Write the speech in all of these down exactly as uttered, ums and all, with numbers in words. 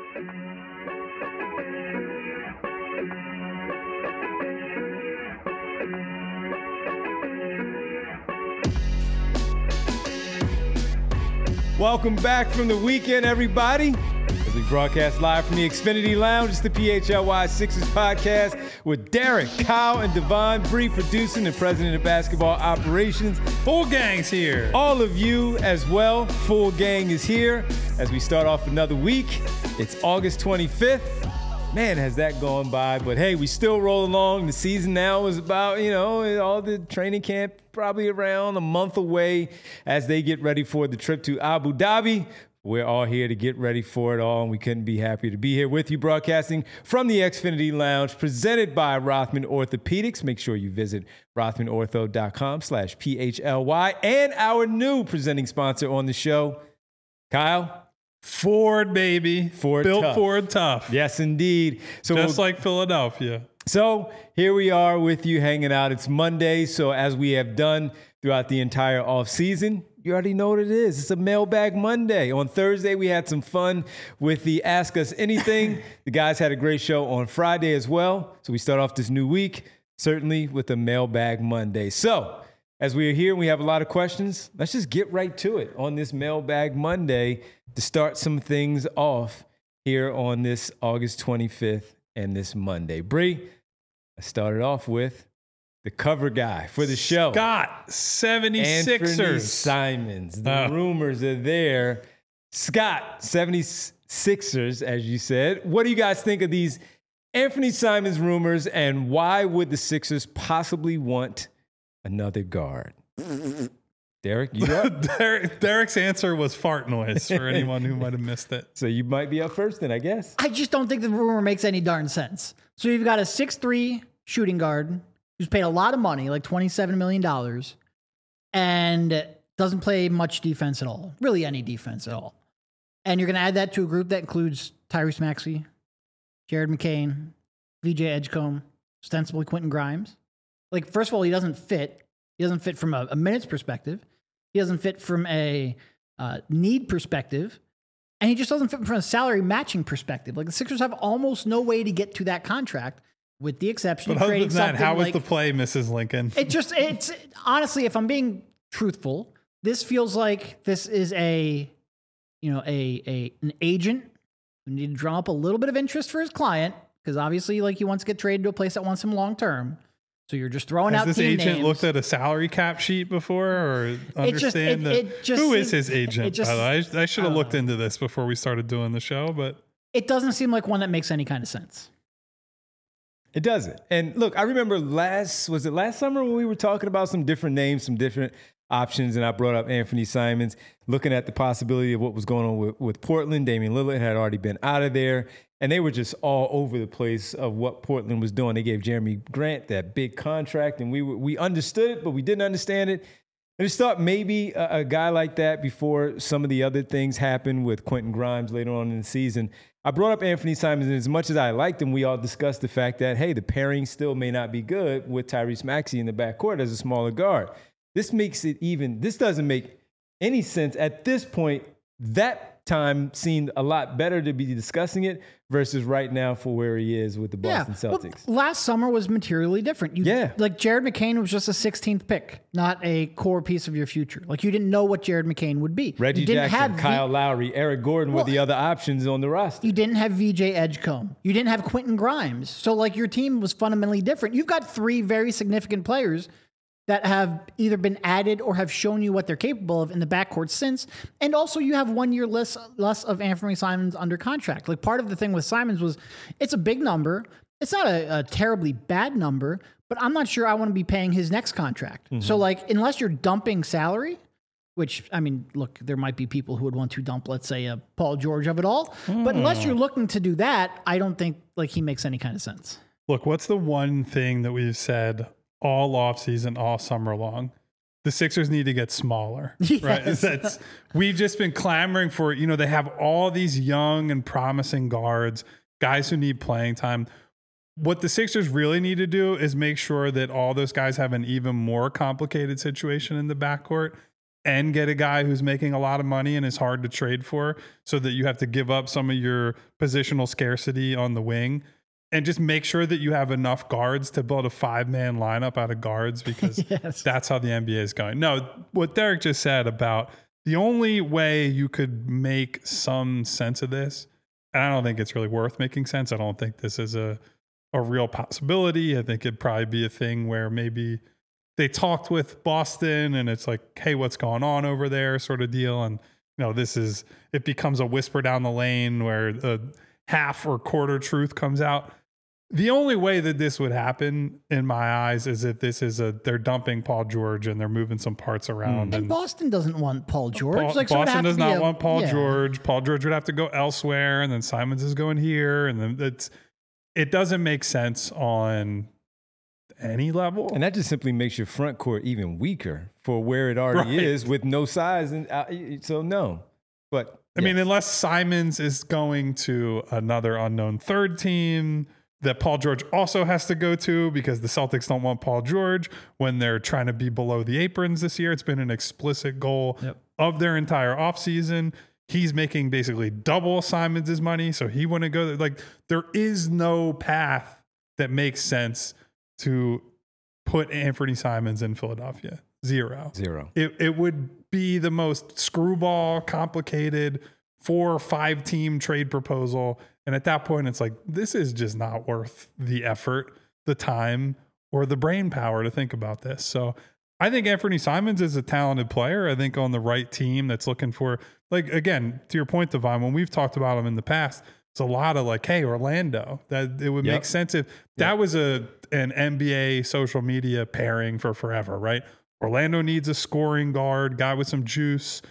Welcome back from the weekend, everybody. As we broadcast live from the Xfinity Lounge, it's the P H L Y Sixers podcast with Derek, Kyle, and Devon Bree producing and president of basketball operations. Full gang's here. All of you as well. Full gang is here as we start off another week. It's August twenty-fifth. Man, has that gone by. But hey, we still roll along. The season now is about, you know, all the training camp probably around a month away as they get ready for the trip to Abu Dhabi. We're all here to get ready for it all, and we couldn't be happier to be here with you, broadcasting from the Xfinity Lounge, presented by Rothman Orthopedics. Make sure you visit rothmanortho.com slash PHLY, and our new presenting sponsor on the show, Kyle. Ford, baby. Ford Built tough. Ford tough. Yes, indeed. So Just we'll, like Philadelphia. So here we are with you hanging out. It's Monday, so as we have done throughout the entire offseason, you already know what it is. It's a Mailbag Monday. On Thursday, we had some fun with the Ask Us Anything. The guys had a great show on Friday as well. So we start off this new week, certainly with a Mailbag Monday. So as we are here and we have a lot of questions, let's just get right to it on this Mailbag Monday to start some things off here on this August twenty-fifth and this Monday. Bree, I started off with the cover guy for the show. Scott, seventy-sixers. Anthony Simons. The Oh. rumors are there. Scott, seventy-sixers, as you said. What do you guys think of these Anthony Simons rumors, and why would the Sixers possibly want another guard? Derek, you up? Derek, Derek's answer was fart noise for anyone who might have missed it. So you might be up first then, I guess. I just don't think the rumor makes any darn sense. So you've got a six three shooting guard who's paid a lot of money, like twenty-seven million dollars, and doesn't play much defense at all, really any defense at all. And you're going to add that to a group that includes Tyrese Maxey, Jared McCain, V J Edgecombe, ostensibly Quentin Grimes. Like, first of all, he doesn't fit. He doesn't fit from a, a minutes perspective. He doesn't fit from a uh, need perspective. And he just doesn't fit from a salary matching perspective. Like, the Sixers have almost no way to get to that contract, with the exception But of other creating than that, something how was like, the play, Missus Lincoln? it just, it's, honestly, if I'm being truthful, this feels like this is a, you know, a, a an agent who needed to drum up a little bit of interest for his client, because obviously, like, he wants to get traded to a place that wants him long term. So you're just throwing Has out this team agent names. looked at a salary cap sheet before, or It just- understand it- that? it just Who is seems- his agent? it just- by the way? I, I should I have don't looked know. into this before we started doing the show, but It doesn't seem like one that makes any kind of sense. It doesn't. And look, I remember last, was it last summer when we were talking about some different names, some different options, and I brought up Anthony Simons, looking at the possibility of what was going on with, with Portland. Damian Lillard had already been out of there, and they were just all over the place of what Portland was doing. They gave Jeremy Grant that big contract, and we were, we understood it, but we didn't understand it. I just thought maybe a, a guy like that, before some of the other things happened with Quentin Grimes later on in the season. I brought up Anthony Simons, and as much as I liked him, we all discussed the fact that, hey, the pairing still may not be good with Tyrese Maxey in the backcourt as a smaller guard. This makes it even, this doesn't make any sense. At this point, that time seemed a lot better to be discussing it versus right now for where he is with the Boston yeah. Celtics. Well, last summer was materially different. You, Yeah. Like, Jared McCain was just a sixteenth pick, not a core piece of your future. Like, you didn't know what Jared McCain would be. Reggie you didn't Jackson, have Kyle v- Lowry, Eric Gordon Well, were the other options on the roster. You didn't have V J Edgecombe. You didn't have Quentin Grimes. So, like, your team was fundamentally different. You've got three very significant players that have either been added or have shown you what they're capable of in the backcourt since. And also, you have one year less, less of Anthony Simons under contract. Like, part of the thing with Simons was it's a big number. It's not a, a terribly bad number, but I'm not sure I want to be paying his next contract. Mm-hmm. So, like, unless you're dumping salary, which, I mean, look, there might be people who would want to dump, let's say, a Paul George of it all. Mm. But unless you're looking to do that, I don't think, like, he makes any kind of sense. look, what's the one thing that we've said all offseason, all summer long? The Sixers need to get smaller, Yes. right? That's, we've just been clamoring for, you know, they have all these young and promising guards, guys who need playing time. What the Sixers really need to do is make sure that all those guys have an even more complicated situation in the backcourt. and get a guy who's making a lot of money and is hard to trade for, so that you have to give up some of your positional scarcity on the wing, and just make sure that you have enough guards to build a five-man lineup out of guards, because Yes. that's how the N B A is going. No, what Derek just said about the only way you could make some sense of this, and I don't think it's really worth making sense. I don't think this is a, a real possibility. I think it'd probably be a thing where maybe they talked with Boston and it's like, hey, what's going on over there sort of deal. And, you know, this is, it becomes a whisper down the lane where a half or quarter truth comes out. The only way that this would happen in my eyes is if this is a, they're dumping Paul George and they're moving some parts around. And, And Boston doesn't want Paul George. Paul, like, so it would Boston have does to be not a- want Paul yeah. George. Paul George would have to go elsewhere, and then Simons is going here, and then it's it doesn't make sense on any level. And that just simply makes your front court even weaker for where it already Right. is with no size. And uh, so no, but I mean, yes. unless Simons is going to another unknown third team that Paul George also has to go to, because the Celtics don't want Paul George when they're trying to be below the aprons this year. It's been an explicit goal Yep. of their entire offseason. He's making basically double Simons' money, so he wouldn't go there. Like, there is no path that makes sense to put Anthony Simons in Philadelphia. Zero. zero. It it would be the most screwball, complicated four or five team trade proposal. And at that point, it's like, this is just not worth the effort, the time, or the brain power to think about this. So I think Anthony Simons is a talented player. I think on the right team that's looking for, like, again, to your point, Devon, when we've talked about him in the past, it's a lot of like, hey, Orlando, that it would Yep. make sense if that was a an N B A social media pairing for forever, right? Orlando needs a scoring guard, guy with some juice.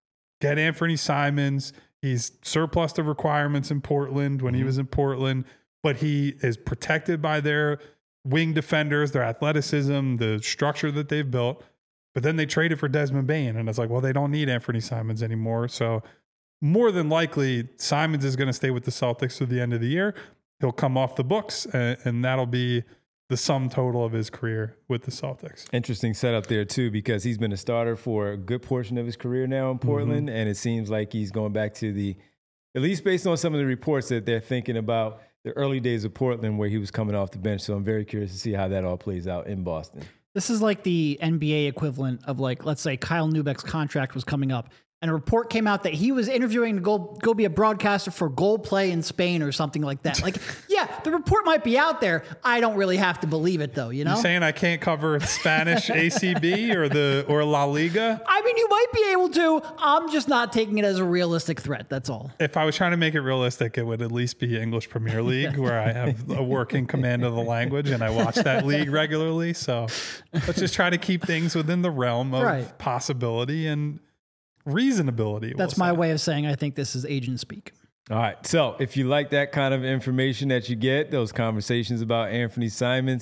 Get Anthony Simons. He's surplus the requirements in Portland when he was in Portland, but he is protected by their wing defenders, their athleticism, the structure that they've built. But then they traded for Desmond Bane, and it's like, well, they don't need Anthony Simons anymore. So more than likely, Simons is going to stay with the Celtics through the end of the year. He'll come off the books, and, and that'll be the sum total of his career with the Celtics. Interesting setup there too, because he's been a starter for a good portion of his career now in Portland, and it seems like he's going back to the, at least based on some of the reports that they're thinking about the early days of Portland where he was coming off the bench. So I'm very curious to see how that all plays out in Boston. This is like the N B A equivalent of, like, let's say Kyle Neubeck's contract was coming up, and a report came out that he was interviewing to go go be a broadcaster for Goal Play in Spain or something like that. Like, yeah, the report might be out there. I don't really have to believe it, though. You know, You saying I can't cover Spanish A C B or the or La Liga? I mean, you might be able to. I'm just not taking it as a realistic threat. That's all. If I was trying to make it realistic, it would at least be English Premier League, where I have a working command of the language and I watch that league regularly. So let's just try to keep things within the realm of Right. possibility and reasonability. That's we'll my say. way of saying I think this is agent speak. All right. So if you like that kind of information that you get, those conversations about Anthony Simons,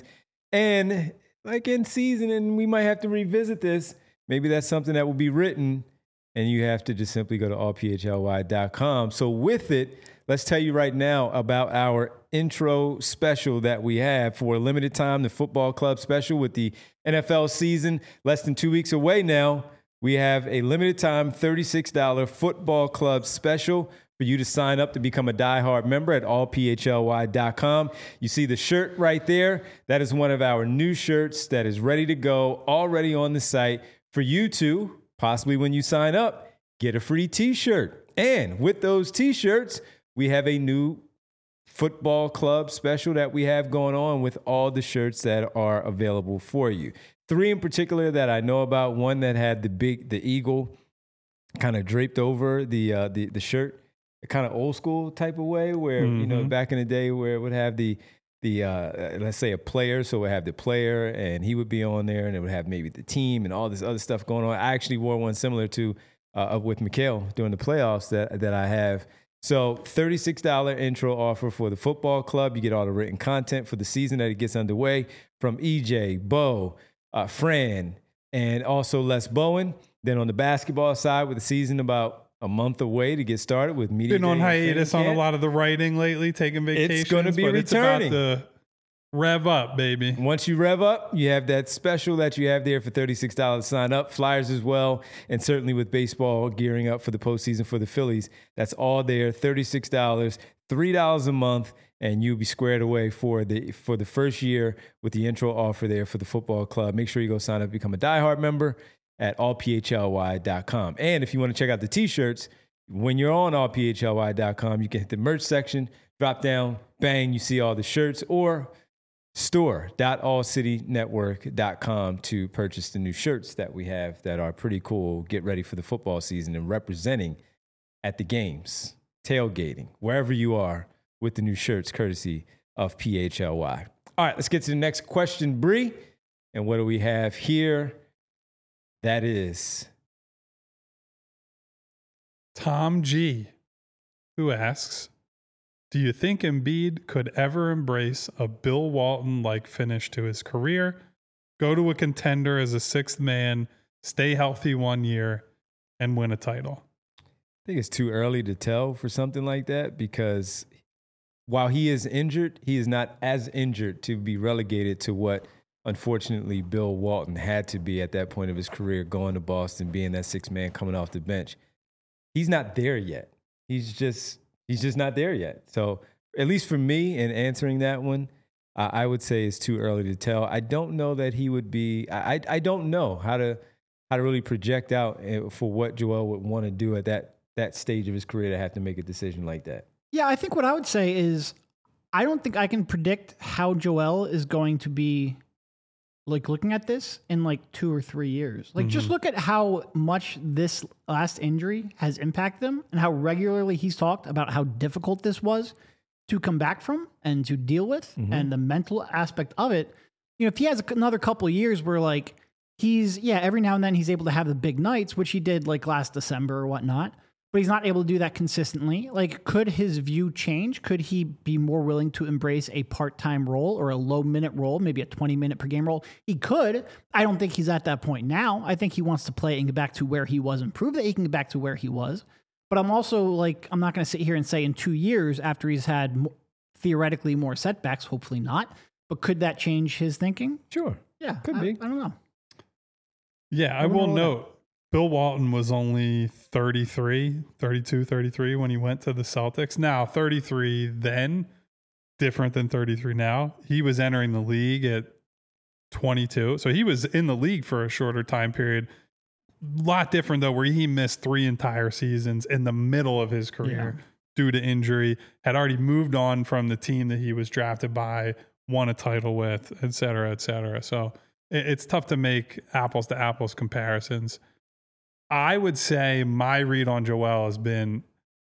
and like in season, and we might have to revisit this, maybe that's something that will be written, and you have to just simply go to all p h l y dot com. So with it, let's tell you right now about our intro special that we have for a limited time, the Football Club special with the N F L season less than two weeks away now. We have a limited time thirty-six dollars Football Club special for you to sign up to become a diehard member at all p h l y dot com. You see the shirt right there. That is one of our new shirts that is ready to go, already on the site for you to, possibly when you sign up, get a free t-shirt. And with those t-shirts, we have a new Football Club special that we have going on with all the shirts that are available for you. Three in particular that I know about. One that had the big, the eagle kind of draped over the uh, the the shirt, a kind of old school type of way, where Mm-hmm. you know back in the day where it would have the the uh, let's say a player, so it would have the player and he would be on there, and it would have maybe the team and all this other stuff going on. I actually wore one similar to uh, with Mikhail during the playoffs that that I have. So thirty-six dollars intro offer for the Football Club. You get all the written content for the season that it gets underway from E J, Bo, Uh, Fran, and also Les Bowen. Then on the basketball side, with the season about a month away to get started with media. Been on day and hiatus training on a camp. lot of the writing lately, taking vacations. gonna be but it's returning. about the Rev up, baby. Once you rev up, you have that special that you have there for thirty-six dollars to sign up. Flyers as well. And certainly with baseball gearing up for the postseason for the Phillies, that's all there. thirty-six dollars, three dollars a month, and you'll be squared away for the for the first year with the intro offer there for the football club. Make sure you go sign up, become a diehard member at all p h l y dot com. And if you want to check out the t-shirts, when you're on all p h l y dot com, you can hit the merch section, drop down, bang, you see all the shirts, or store dot all city network dot com to purchase the new shirts that we have that are pretty cool. Get ready for the football season and representing at the games, tailgating, wherever you are with the new shirts courtesy of P H L Y. All right, let's get to the next question, Bree. And what do we have here? That is Tom G, who asks, do you think Embiid could ever embrace a Bill Walton-like finish to his career, go to a contender as a sixth man, stay healthy one year, and win a title? I think it's too early to tell for something like that because while he is injured, he is not as injured to be relegated to what, unfortunately, Bill Walton had to be at that point of his career, going to Boston, being that sixth man coming off the bench. He's not there yet. He's just... He's just not there yet. So at least for me in answering that one, uh, I would say it's too early to tell. I don't know that he would be, I, I don't know how to how to really project out for what Joel would want to do at that that stage of his career to have to make a decision like that. Yeah, I think what I would say is I don't think I can predict how Joel is going to be like looking at this in like two or three years. Like mm-hmm. just look at how much this last injury has impacted him and how regularly he's talked about how difficult this was to come back from and to deal with mm-hmm. and the mental aspect of it. You know, if he has another couple of years where like he's, yeah, every now and then he's able to have the big nights, which he did like last December or whatnot, but he's not able to do that consistently. Like, could his view change? Could he be more willing to embrace a part-time role or a low-minute role, maybe a twenty-minute per game role? He could. I don't think he's at that point now. I think he wants to play and get back to where he was and prove that he can get back to where he was. But I'm also, like, I'm not going to sit here and say in two years after he's had mo- theoretically more setbacks, hopefully not, but could that change his thinking? Sure. Yeah. Could I, be. I don't know. Yeah, I, I will note. Bill Walton was only thirty-three, thirty-two, thirty-three when he went to the Celtics. Now, thirty-three then, different than thirty-three now. He was entering the league at twenty-two. So he was in the league for a shorter time period. A lot different, though, where he missed three entire seasons in the middle of his career yeah. due to injury, had already moved on from the team that he was drafted by, won a title with, et cetera, et cetera. So it's tough to make apples to apples comparisons. I would say my read on Joel has been,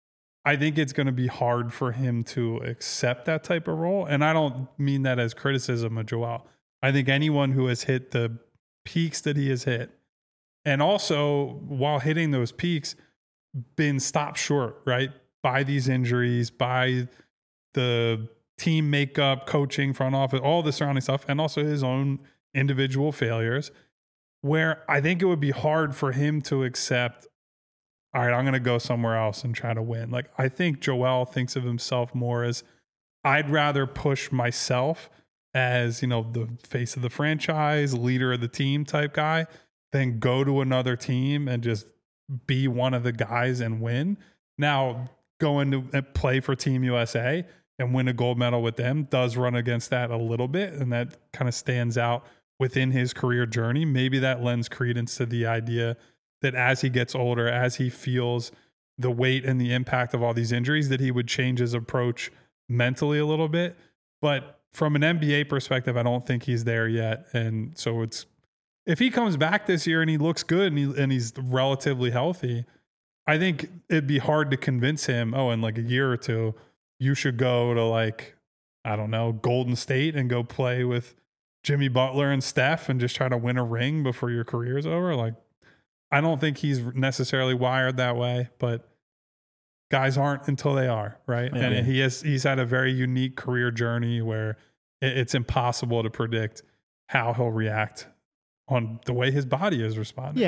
I think it's going to be hard for him to accept that type of role. And I don't mean that as criticism of Joel. I think anyone who has hit the peaks that he has hit, and also while hitting those peaks, been stopped short, right? By these injuries, by the team makeup, coaching, front office, all the surrounding stuff, and also his own individual failures, where I think it would be hard for him to accept, all right, I'm going to go somewhere else and try to win. Like, I think Joel thinks of himself more as, I'd rather push myself as, you know, the face of the franchise, leader of the team type guy, than go to another team and just be one of the guys and win. Now, going to play for Team U S A and win a gold medal with them does run against that a little bit, and that kind of stands out within his career journey. Maybe that lends credence to the idea that as he gets older, as he feels the weight and the impact of all these injuries, that he would change his approach mentally a little bit. But from an N B A perspective, I don't think he's there yet. And so it's, if he comes back this year and he looks good and, he, and he's relatively healthy, I think it'd be hard to convince him, oh, in like a year or two, you should go to like, I don't know, Golden State and go play with Jimmy Butler and Steph and just try to win a ring before your career's over. Like, I don't think he's necessarily wired that way, but guys aren't until they are, right? Yeah. And he has, he's had a very unique career journey where it's impossible to predict how he'll react on the way his body is responding. Yeah.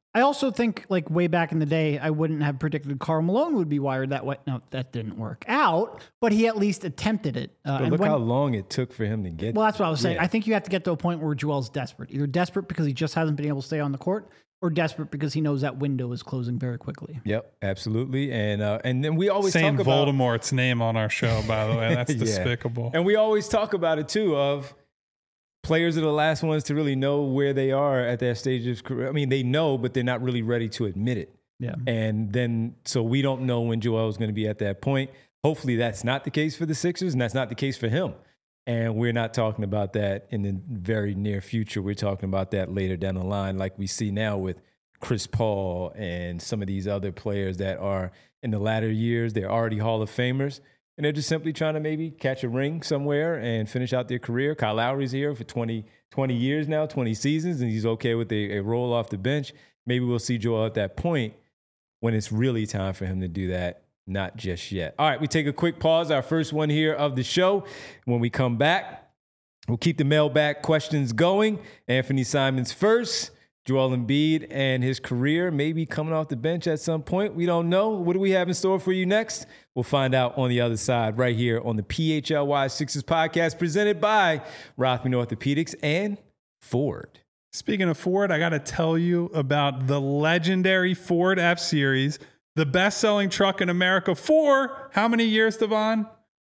I also think, like, way back in the day, I wouldn't have predicted Karl Malone would be wired that way. No, that didn't work out, but he at least attempted it. Uh, But and look when, how long it took for him to get well, that's what I was saying. Yeah. I think you have to get to a point where Joel's desperate. Either desperate because he just hasn't been able to stay on the court, or desperate because he knows that window is closing very quickly. Yep, absolutely. And uh, and then we always Saying talk about Voldemort's name on our show, by the way. That's Yeah. despicable. And we always talk about it too of players are the last ones to really know where they are at that stage of career. I mean, they know, but they're not really ready to admit it. Yeah. And then, so we don't know when Joel is going to be at that point. Hopefully that's not the case for the Sixers, and that's not the case for him. And we're not talking about that in the very near future. We're talking about that later down the line, like we see now with Chris Paul and some of these other players that are in the latter years. They're already Hall of Famers, and they're just simply trying to maybe catch a ring somewhere and finish out their career. Kyle Lowry's here for twenty, twenty years now, twenty seasons, and he's okay with a, a roll off the bench. Maybe we'll see Joel at that point when it's really time for him to do that. Not just yet. All right, we take a quick pause, our first one here of the show. When we come back, we'll keep the mailbag questions going. Anthony Simons first. Joel Embiid and his career maybe coming off the bench at some point. We don't know. What do we have in store for you next? We'll find out on the other side right here on the P H L Y Sixers podcast presented by Rothman Orthopedics and Ford. Speaking of Ford, I got to tell you about the legendary Ford F-Series, the best-selling truck in America for how many years, Devon?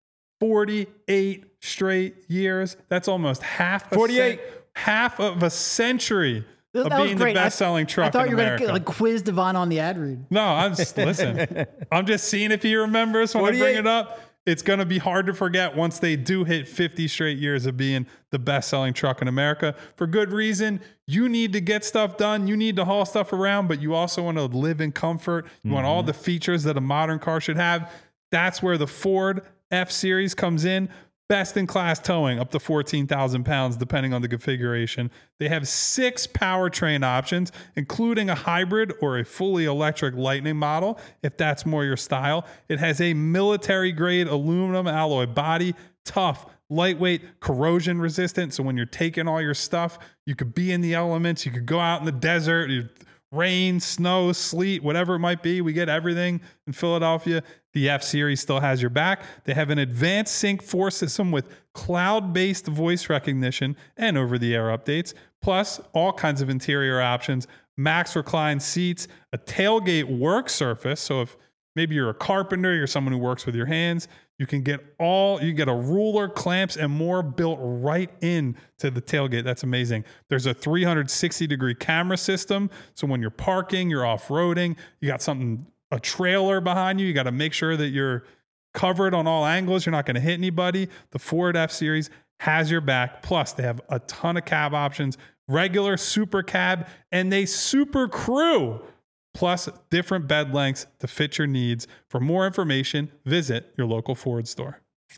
forty-eight straight years. That's almost half a forty-eight. cent- half of a century That of was being the great. I- best-selling truck I thought in you were America. going to like quiz Devon on the ad read. No, I'm just listen. I'm just seeing if he remembers when I bring forty-eight. it up. It's going to be hard to forget once they do hit fifty straight years of being the best-selling truck in America. For good reason. You need to get stuff done. You need to haul stuff around, but you also want to live in comfort. You mm-hmm. want all the features that a modern car should have. That's where the Ford F-Series comes in. Best-in-class towing, up to fourteen thousand pounds, depending on the configuration. They have six powertrain options, including a hybrid or a fully electric Lightning model, if that's more your style. It has a military-grade aluminum alloy body, tough, lightweight, corrosion-resistant, so when you're taking all your stuff, you could be in the elements, you could go out in the desert, you rain, snow, sleet, whatever it might be. We get everything in Philadelphia. The F-Series still has your back. They have an advanced Sync four system with cloud-based voice recognition and over-the-air updates, plus all kinds of interior options, max recline seats, a tailgate work surface. So if maybe you're a carpenter, you're someone who works with your hands, you can get all, you get a ruler, clamps, and more built right in to the tailgate. That's amazing. There's a three hundred sixty degree camera system. So when you're parking, you're off-roading, you got something, a trailer behind you, you got to make sure that you're covered on all angles. You're not going to hit anybody. The Ford F-Series has your back. Plus, they have a ton of cab options, regular, super cab, and they super crew. Plus different bed lengths to fit your needs. For more information, visit your local Ford store.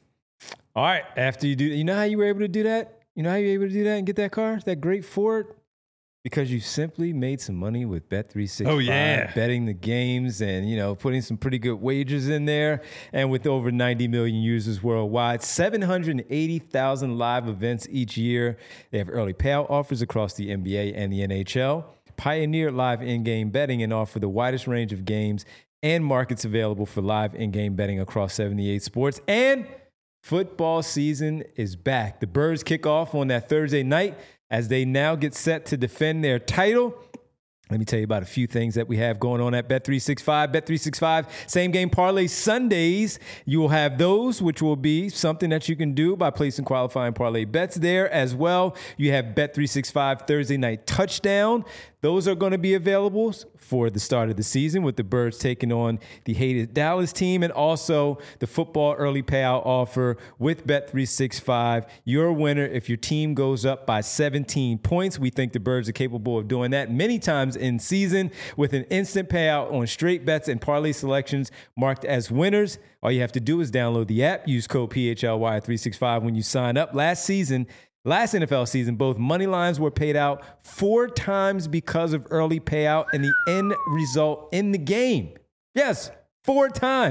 All right. After you do, you know how you were able to do that? You know how you were able to do that and get that car, that great Ford? Because you simply made some money with Bet three sixty-five, oh, yeah. betting the games and, you know, putting some pretty good wagers in there. And with over ninety million users worldwide, seven hundred eighty thousand live events each year. They have early payout offers across the N B A and the N H L. Pioneer live in-game betting and offer the widest range of games and markets available for live in-game betting across seventy-eight sports. And football season is back. The Birds kick off on that Thursday night as they now get set to defend their title. Let me tell you about a few things that we have going on at Bet three sixty-five. Bet three sixty-five, same game parlay Sundays. You will have those, which will be something that you can do by placing qualifying parlay bets there as well. You have Bet three sixty-five Thursday night touchdown. Those are going to be available for the start of the season with the Birds taking on the hated Dallas team, and also the football early payout offer with Bet three sixty-five. Your winner if your team goes up by seventeen points. We think the Birds are capable of doing that many times in season with an instant payout on straight bets and parlay selections marked as winners. All you have to do is download the app, use code P H L Y three sixty-five when you sign up. Last season, Last N F L season, both money lines were paid out four times because of early payout and the end result in the game. Yes, four times.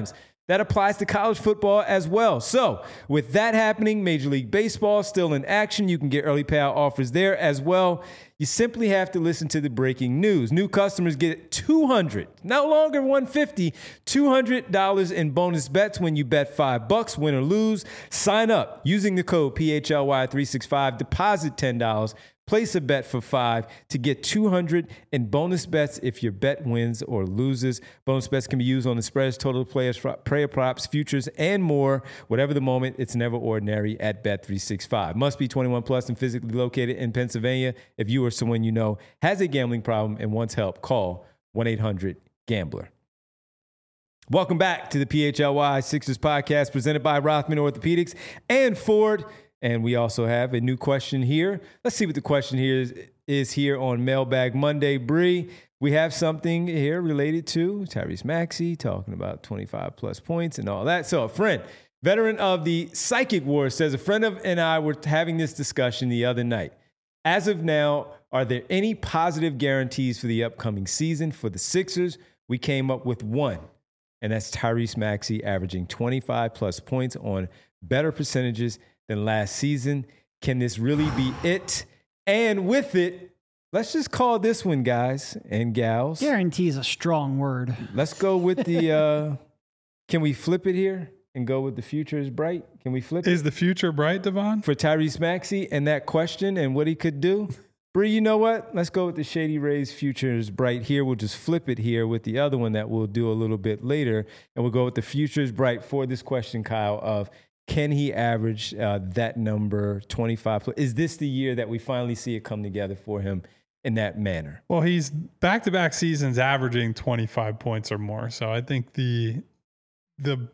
That applies to college football as well. So, with that happening, Major League Baseball still in action. You can get early payout offers there as well. You simply have to listen to the breaking news. New customers get two hundred dollars, no longer one hundred fifty dollars, two hundred dollars in bonus bets when you bet five bucks, win or lose. Sign up using the code P H L Y three sixty-five, deposit ten dollars. Place a bet for five to get two hundred in bonus bets if your bet wins or loses. Bonus bets can be used on the spreads, total players, player props, futures, and more. Whatever the moment, it's never ordinary at Bet three sixty-five. Must be twenty-one plus and physically located in Pennsylvania. If you or someone you know has a gambling problem and wants help, call one eight hundred gambler. Welcome back to the P H L Y Sixers podcast presented by Rothman Orthopedics and Ford. And we also have a new question here. Let's see what the question here is, is here on Mailbag Monday. Bree, we have something here related to Tyrese Maxey talking about twenty-five plus points and all that. So a friend, veteran of the Psychic Wars, says a friend of and I were having this discussion the other night. As of now, are there any positive guarantees for the upcoming season for the Sixers? We came up with one, and that's Tyrese Maxey averaging twenty-five plus points on better percentages than last season. Can this really be it? And with it, let's just call this one, guys and gals. Guarantee is a strong word. Let's go with the, uh, can we flip it here and go with the future is bright? Can we flip it? Is the future bright, Devon? For Tyrese Maxey and that question and what he could do? Bree, you know what? Let's go with the Shady Rays future is bright here. We'll just flip it here with the other one that we'll do a little bit later. And we'll go with the future is bright for this question, Kyle, of can he average uh, that number twenty-five? Is this the year that we finally see it come together for him in that manner? Well, he's back-to-back seasons averaging twenty-five points or more. So I think the the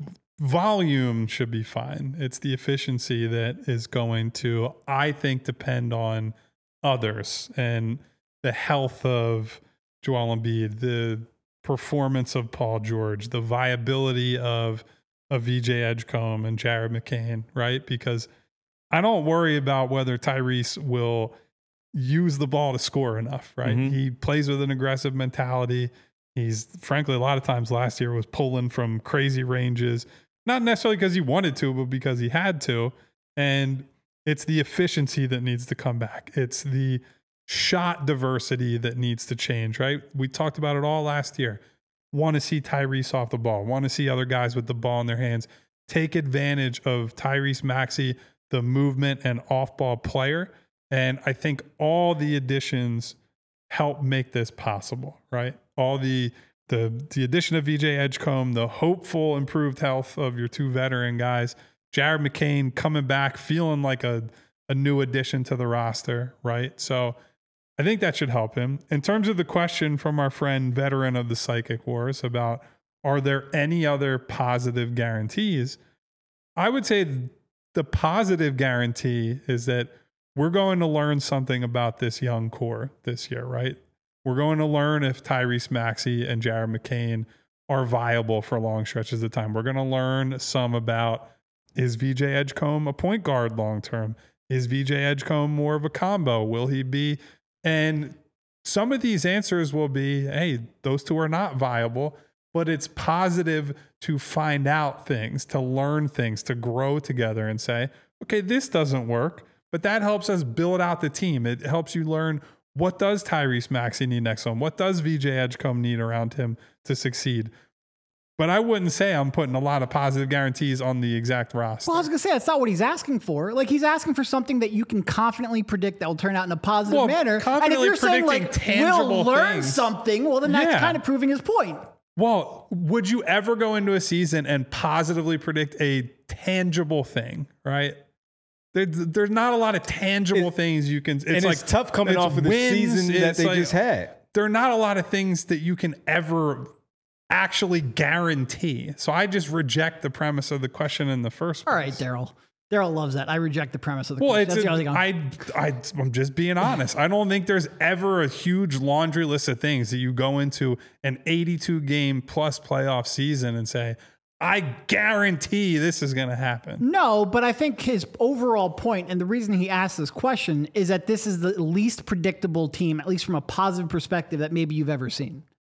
volume should be fine. It's the efficiency that is going to, I think, depend on others and the health of Joel Embiid, the performance of Paul George, the viability of of V J Edgecombe and Jared McCain, right? Because I don't worry about whether Tyrese will use the ball to score enough, right? Mm-hmm. He plays with an aggressive mentality. He's, frankly, a lot of times last year was pulling from crazy ranges, not necessarily because he wanted to, but because he had to. And it's the efficiency that needs to come back. It's the shot diversity that needs to change, right? We talked about it all last year. Want to see Tyrese off the ball, want to see other guys with the ball in their hands, take advantage of Tyrese Maxey, the movement and off-ball player. And I think all the additions help make this possible, right? All the the the addition of V J Edgecombe, the hopeful improved health of your two veteran guys, Jared McCain coming back, feeling like a, a new addition to the roster, right? So I think that should help him. In terms of the question from our friend, veteran of the Psychic Wars, about are there any other positive guarantees? I would say the positive guarantee is that we're going to learn something about this young core this year, right? We're going to learn if Tyrese Maxey and Jared McCain are viable for long stretches of time. We're going to learn some about, is V J Edgecombe a point guard long-term? Is V J Edgecombe more of a combo? Will he be... And some of these answers will be, hey, those two are not viable, but it's positive to find out things, to learn things, to grow together and say, okay, this doesn't work, but that helps us build out the team. It helps you learn, what does Tyrese Maxey need next to him? What does V J Edgecombe need around him to succeed? But I wouldn't say I'm putting a lot of positive guarantees on the exact roster. Well, I was going to say, that's not what he's asking for. Like, he's asking for something that you can confidently predict that will turn out in a positive well, manner. And if you're saying, like, we'll learn things, something, well, then that's yeah. kind of proving his point. Well, would you ever go into a season and positively predict a tangible thing, right? There, there's not a lot of tangible it, things you can... It's and like, it's tough coming it's off of the wins, season that they like, just had. There are not a lot of things that you can ever actually guarantee. So I just reject the premise of the question in the first place. All right, Daryl. Daryl loves that. I reject the premise of the well, question. It's That's a, I, I, I'm just being honest. I don't think there's ever a huge laundry list of things that you go into an eighty-two game plus playoff season and say, I guarantee this is going to happen. No, but I think his overall point, and the reason he asked this question, is that this is the least predictable team, at least from a positive perspective, that maybe you've ever seen.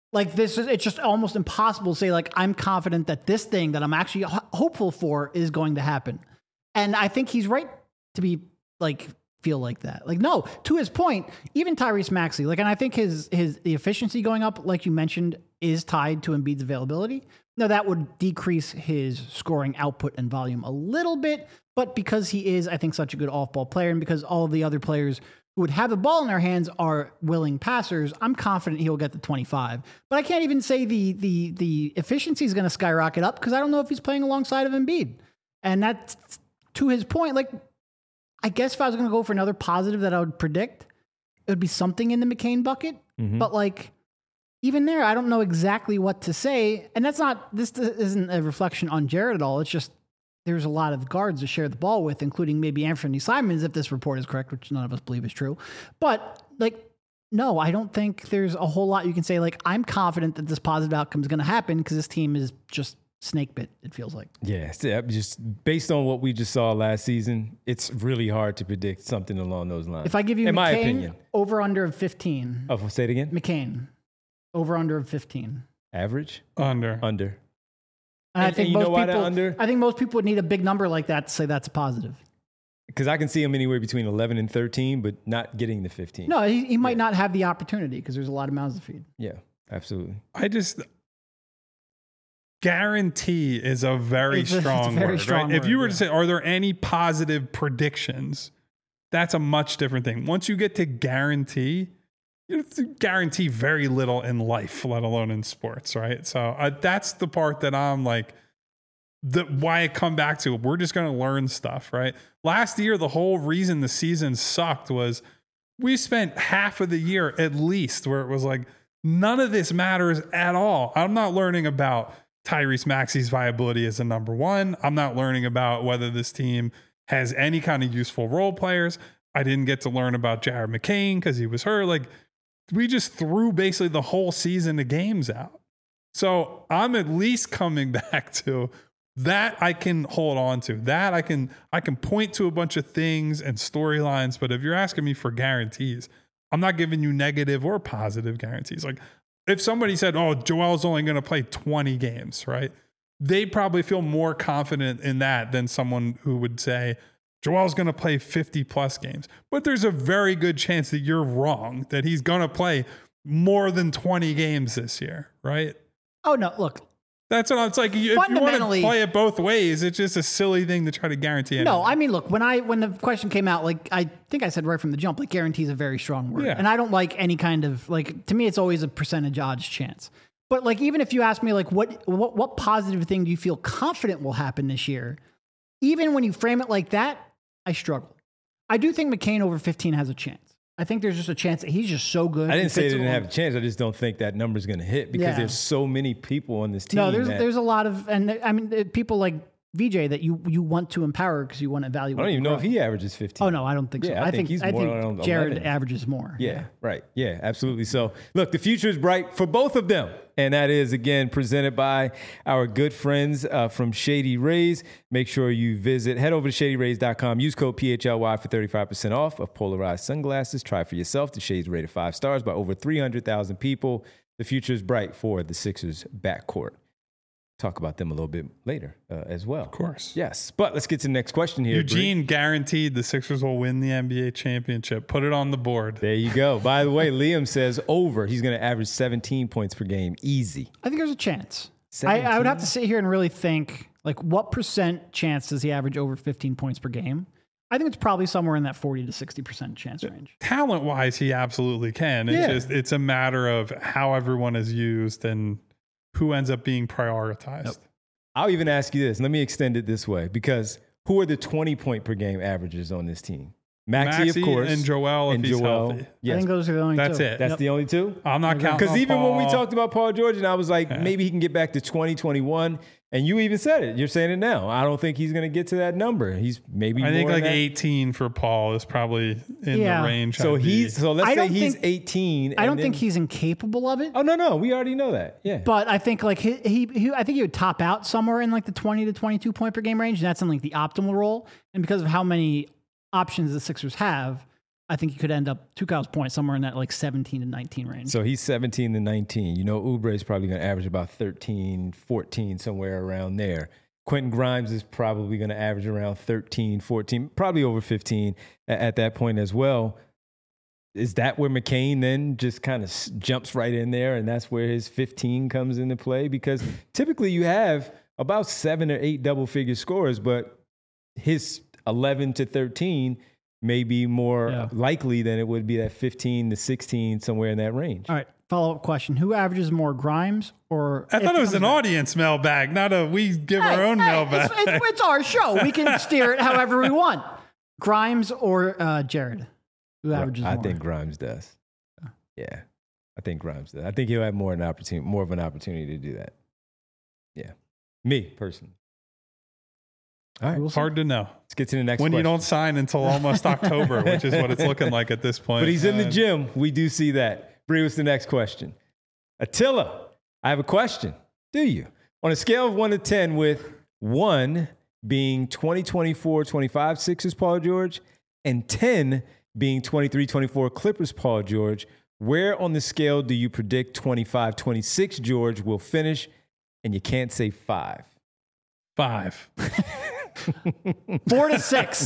Like this is, it's just almost impossible to say like, I'm confident that this thing that I'm actually ho- hopeful for is going to happen. And I think he's right to be like, feel like that. Like, no, to his point, even Tyrese Maxey, like, and I think his, his, the efficiency going up, like you mentioned, is tied to Embiid's availability. Now that would decrease his scoring output and volume a little bit, but because he is, I think, such a good off-ball player, and because all of the other players who would have the ball in their hands are willing passers, I'm confident he'll get the twenty-five. But I can't even say the the the efficiency is going to skyrocket up because I don't know if he's playing alongside of Embiid. And that's, to his point, like, I guess if I was going to go for another positive that I would predict, it would be something in the McCain bucket. Mm-hmm. But like, even there, I don't know exactly what to say. And that's not, this isn't a reflection on Jared at all. It's just, there's a lot of guards to share the ball with, including maybe Anthony Simons, if this report is correct, which none of us believe is true. But like, no, I don't think there's a whole lot you can say. Like, I'm confident that this positive outcome is going to happen because this team is just snake bit, it feels like. Yeah, just based on what we just saw last season, it's really hard to predict something along those lines. If I give you in McCain, my opinion, over under of fifteen. Oh, say it again. McCain, over under of fifteen. Average? Under. Under. And, and I think and you most know why people, that under? I think most people would need a big number like that to say that's a positive. Because I can see him anywhere between eleven and thirteen, but not getting the fifteen. No, he, he might yeah. not have the opportunity because there's a lot of mouths to feed. Yeah, absolutely. I just guarantee is a very it's a, strong a very word, strong right? word, If you were yeah. to say, are there any positive predictions? That's a much different thing. Once you get to guarantee, you have to guarantee very little in life, let alone in sports, right? So uh, that's the part that I'm like, the why I come back to. We're just going to learn stuff, right? Last year, the whole reason the season sucked was we spent half of the year at least where it was like, none of this matters at all. I'm not learning about Tyrese Maxey's viability as a number one. I'm not learning about whether this team has any kind of useful role players. I didn't get to learn about Jared McCain because he was hurt. Like, we just threw basically the whole season of games out. So I'm at least coming back to that I can hold on to. That I can I can point to a bunch of things and storylines. But if you're asking me for guarantees, I'm not giving you negative or positive guarantees. Like, if somebody said, oh, Joel's only going to play twenty games, right? They probably feel more confident in that than someone who would say, Joel's going to play fifty plus games. But there's a very good chance that you're wrong, that he's going to play more than twenty games this year, right? Oh, no, look. That's what I'm, it's like. If you want to play it both ways, it's just a silly thing to try to guarantee anything. No, I mean, look, when I when the question came out, like, I think I said right from the jump, like, guarantee is a very strong word. Yeah. And I don't like any kind of, like, to me, it's always a percentage odds chance. But, like, even if you ask me, like, what what what positive thing do you feel confident will happen this year? Even when you frame it like that, I struggle. I do think McCain over fifteen has a chance. I think there's just a chance that he's just so good. I didn't say they didn't have a chance. I just don't think that number's going to hit because Yeah. there's so many people on this team. No, there's that, there's a lot of, and I mean, people like V J that you you want to empower because you want to evaluate. I don't even know grow. if he averages fifteen. Oh no, I don't think so. Yeah, I I think think he's I more think around Jared eleven. averages more. Yeah, right. Yeah, absolutely. So, look, the future is bright for both of them. And that is, again, presented by our good friends uh, from Shady Rays. Make sure you visit, head over to shady rays dot com. Use code P H L Y for thirty-five percent off of polarized sunglasses. Try for yourself. The Shades rated five stars by over three hundred thousand people. The future is bright for the Sixers backcourt. Talk about them a little bit later uh, as well. Of course. Yes. But let's get to the next question here. Eugene Bree. guaranteed the Sixers will win the N B A championship. Put it on the board. There you go. By the way, Liam says over. He's going to average seventeen points per game. Easy. I think there's a chance. I, I would have to seventeen? sit here and really think, like, what percent chance does he average over fifteen points per game? I think it's probably somewhere in that forty to sixty percent chance range. Talent wise, he absolutely can. It's Yeah. just it's a matter of how everyone is used and who ends up being prioritized. Nope. I'll even ask you this. Let me extend it this way, because who are the twenty point per game averages on this team? Maxey, Maxey of course, and Joel if and he's Joel. healthy. Yes. I think those are the only That's two. it. That's Yep. the only two? I'm not counting Because on even when we Paul. talked about Paul George, and I was like, Yeah. maybe he can get back to twenty, twenty-one. And you even said it. You're saying it now. I don't think he's going to get to that number. He's maybe I think more like than that. eighteen for Paul is probably in Yeah. the range. So I'd be- he's so let's I say don't he's think- eighteen. I don't and think then- he's incapable of it. Oh no, no, we already know that. Yeah. But I think like he, he, he, I think he would top out somewhere in like the twenty to twenty-two point per game range. And that's in like the optimal role. And because of how many options the Sixers have, I think he could end up, to Kyle's point, somewhere in that like seventeen to nineteen range. So he's seventeen to nineteen. You know, Oubre is probably going to average about thirteen, fourteen, somewhere around there. Quentin Grimes is probably going to average around thirteen, fourteen, probably over fifteen at, at that point as well. Is that where McCain then just kind of s- jumps right in there, and that's where his fifteen comes into play? Because typically you have about seven or eight double-figure scorers, but his eleven to thirteen may be more Yeah. likely than it would be that fifteen to sixteen, somewhere in that range. All right, follow-up question. Who averages more, Grimes or... I thought it was comes an back- audience mailbag, not a we give Hey, our own hey, mailbag. It's, it's, it's our show. We can steer it however we want. Grimes or uh, Jared? Who averages I more? think Grimes does. Yeah, I think Grimes does. I think he'll have more an opportunity, more of an opportunity to do that. Yeah, me personally. All right, We'll see. Hard to know let's get to the next when you question. don't sign until almost October, which is what it's looking like at this point. But he's in the Uh, gym. We do see that. Bring us the next question. Attila, I have a question. Do you? On a scale of one to ten, with one being twenty twenty-four twenty-five Sixers Paul George and ten being twenty-three twenty-four Clippers Paul George, where on the scale do you predict twenty-five twenty-six George will finish? And you can't say five. Five. Four to six.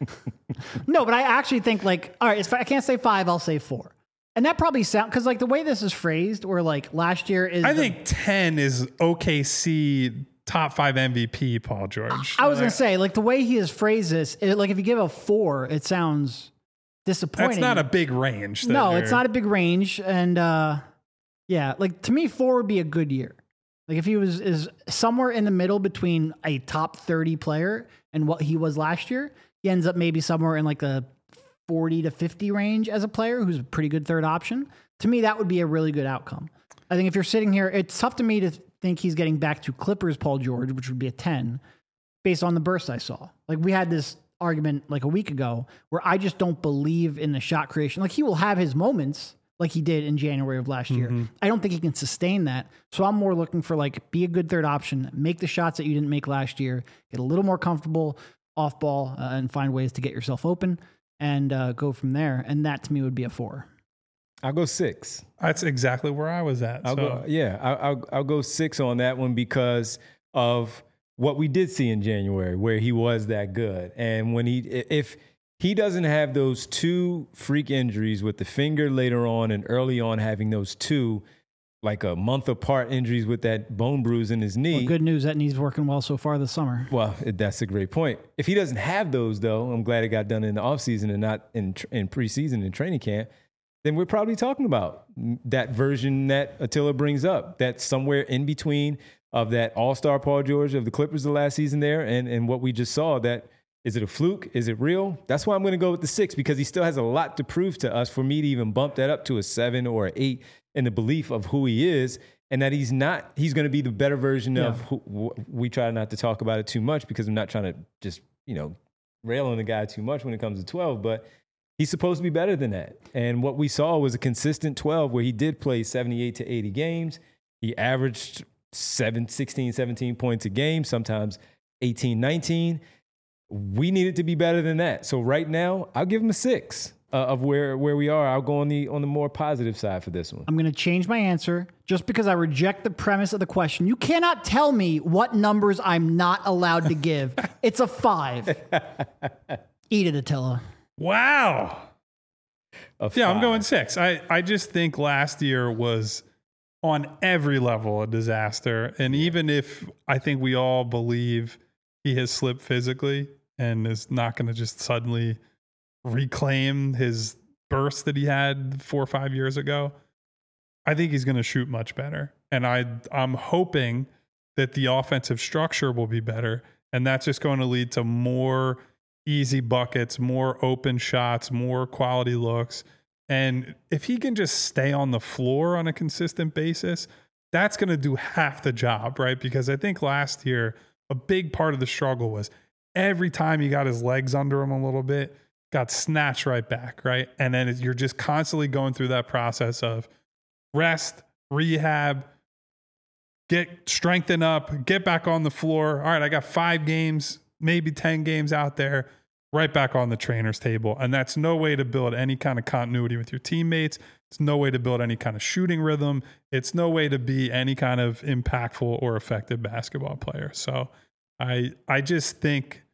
No, but I actually think like, all right, if I can't say five, I'll say four. And that probably sound because like the way this is phrased, where like last year is. I the- think ten is O K C top five M V P Paul George. I was gonna say like the way he has phrased this, it, like if you give a four, it sounds disappointing. That's not a big range. that No, they're- it's not a big range, and uh, yeah, like to me, four would be a good year. Like if he was is somewhere in the middle between a top thirty player and what he was last year, he ends up maybe somewhere in like the forty to fifty range as a player who's a pretty good third option. To me, that would be a really good outcome. I think if you're sitting here, it's tough to me to think he's getting back to Clippers Paul George, which would be a ten, based on the burst I saw. Like we had this argument like a week ago where I just don't believe in the shot creation. Like he will have his moments like he did in January of last year. Mm-hmm. I don't think he can sustain that. So I'm more looking for like be a good third option, make the shots that you didn't make last year, get a little more comfortable off ball uh, and find ways to get yourself open and uh, go from there. And that to me would be a four. I'll go six. That's exactly where I was at. I'll so. go, yeah, I'll, I'll, I'll go six on that one because of what we did see in January, where he was that good. And when he, if he doesn't have those two freak injuries with the finger later on and early on having those two, like a month apart injuries with that bone bruise in his knee. Well, good news, that knee's working well so far this summer. Well, that's a great point. If he doesn't have those, though, I'm glad it got done in the offseason and not in, in preseason and training camp, then we're probably talking about that version that Attila brings up, that's somewhere in between of that all-star Paul George of the Clippers the last season there and, and what we just saw. That is it a fluke? Is it real? That's why I'm going to go with the six, because he still has a lot to prove to us for me to even bump that up to a seven or an eight in the belief of who he is and that he's not, he's going to be the better version Yeah. of who, we try not to talk about it too much because I'm not trying to just, you know, rail on the guy too much when it comes to twelve, but he's supposed to be better than that. And what we saw was a consistent twelve where he did play seventy-eight to eighty games. He averaged seven, sixteen, seventeen points a game, sometimes eighteen, nineteen. We needed to be better than that. So right now, I'll give him a six uh, of where, where we are. I'll go on the on the more positive side for this one. I'm going to change my answer just because I reject the premise of the question. You cannot tell me what numbers I'm not allowed to give. It's a five. Eat it, Attila. Wow. A Yeah, I'm five. going six. I, I just think last year was on every level a disaster. And even if I think we all believe he has slipped physically and is not going to just suddenly reclaim his burst that he had four or five years ago, I think he's going to shoot much better. And I, I'm hoping that the offensive structure will be better. And that's just going to lead to more easy buckets, more open shots, more quality looks. And if he can just stay on the floor on a consistent basis, that's going to do half the job, right? Because I think last year, a big part of the struggle was every time he got his legs under him a little bit, got snatched right back, right? And then you're just constantly going through that process of rest, rehab, get strengthen up, get back on the floor. All right, I got five games, maybe ten games out there. right back on the trainer's table. And that's no way to build any kind of continuity with your teammates. It's no way to build any kind of shooting rhythm. It's no way to be any kind of impactful or effective basketball player. So I I just think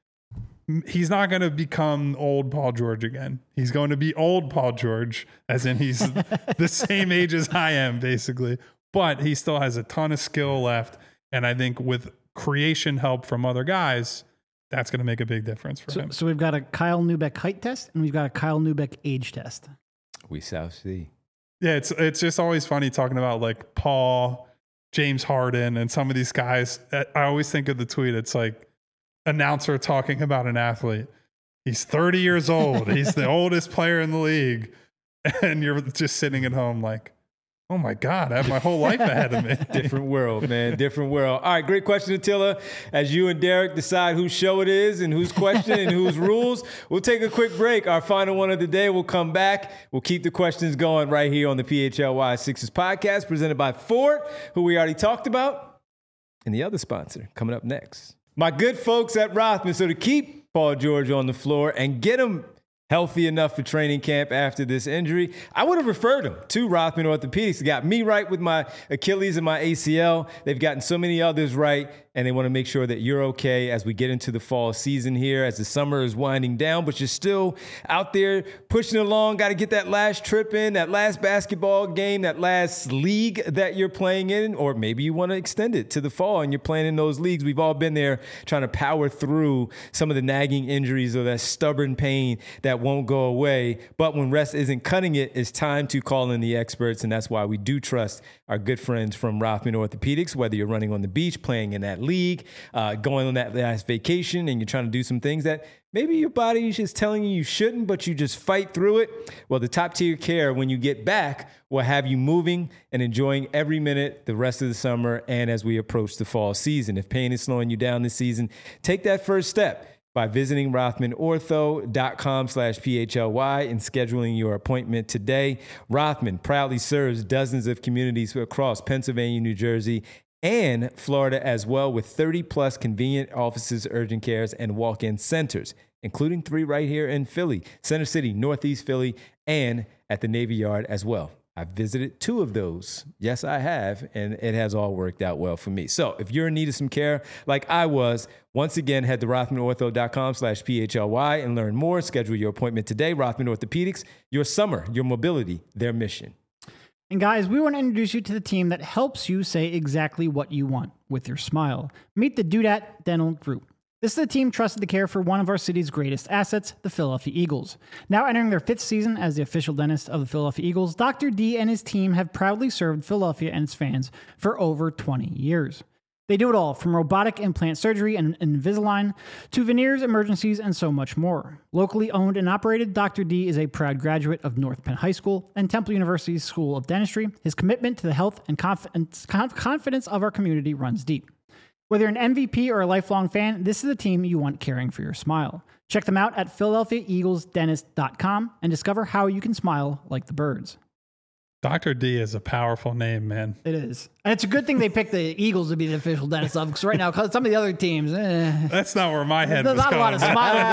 he's not going to become old Paul George again. He's going to be old Paul George, as in he's the same age as I am, basically. But he still has a ton of skill left. And I think with creation help from other guys, that's going to make a big difference for so, him. So we've got a Kyle Neubeck height test, and we've got a Kyle Neubeck age test. We shall see. Yeah, it's it's just always funny talking about like Paul, James Harden, and some of these guys. I always think of the tweet. It's like, announcer talking about an athlete. He's thirty years old. He's the oldest player in the league. And you're just sitting at home like, oh my God, I have my whole life ahead of me. Different world, man. Different world. All right, great question, Attila. As you and Derek decide whose show it is and whose question and whose rules, we'll take a quick break. Our final one of the day. We'll come back. We'll keep the questions going right here on the P H L Y Sixers podcast, presented by Ford, who we already talked about, and the other sponsor coming up next. My good folks at Rothman. So to keep Paul George on the floor and get him healthy enough for training camp after this injury, I would have referred him to Rothman Orthopedics. They got me right with my Achilles and my A C L. They've gotten so many others right, and they want to make sure that you're okay as we get into the fall season here, as the summer is winding down, but you're still out there pushing along. Got to get that last trip in, that last basketball game, that last league that you're playing in, or maybe you want to extend it to the fall and you're playing in those leagues. We've all been there trying to power through some of the nagging injuries or that stubborn pain that won't go away. But when rest isn't cutting it, it's time to call in the experts, and that's why we do trust our good friends from Rothman Orthopedics. Whether you're running on the beach, playing in that league, uh, going on that last vacation, and you're trying to do some things that maybe your body is just telling you you shouldn't, but you just fight through it. Well, the top tier care, when you get back, will have you moving and enjoying every minute the rest of the summer and as we approach the fall season. If pain is slowing you down this season, take that first step by visiting rothmanortho.com slash PHLY and scheduling your appointment today. Rothman proudly serves dozens of communities across Pennsylvania, New Jersey, and Florida as well, with thirty plus convenient offices, urgent cares, and walk-in centers, including three right here in Philly, Center City, Northeast Philly, and at the Navy Yard as well. I've visited two of those. Yes, I have, and it has all worked out well for me. So if you're in need of some care like I was, once again, head to rothmanortho.com slash PHLY and learn more. Schedule your appointment today. Rothman Orthopedics, your summer, your mobility, their mission. And guys, we want to introduce you to the team that helps you say exactly what you want with your smile. Meet the Dudat Dental Group. This is the team trusted to care for one of our city's greatest assets, the Philadelphia Eagles. Now entering their fifth season as the official dentist of the Philadelphia Eagles, Doctor D and his team have proudly served Philadelphia and its fans for over twenty years. They do it all, from robotic implant surgery and Invisalign to veneers, emergencies, and so much more. Locally owned and operated, Doctor D is a proud graduate of North Penn High School and Temple University's School of Dentistry. His commitment to the health and conf- confidence of our community runs deep. Whether you're an M V P or a lifelong fan, this is the team you want caring for your smile. Check them out at philadelphia eagles dentist dot com and discover how you can smile like the birds. Doctor D is a powerful name, man. It is. And it's a good thing they picked the Eagles to be the official dentist of, because right now, because some of the other teams, eh, That's not where my head there's was not going. a lot of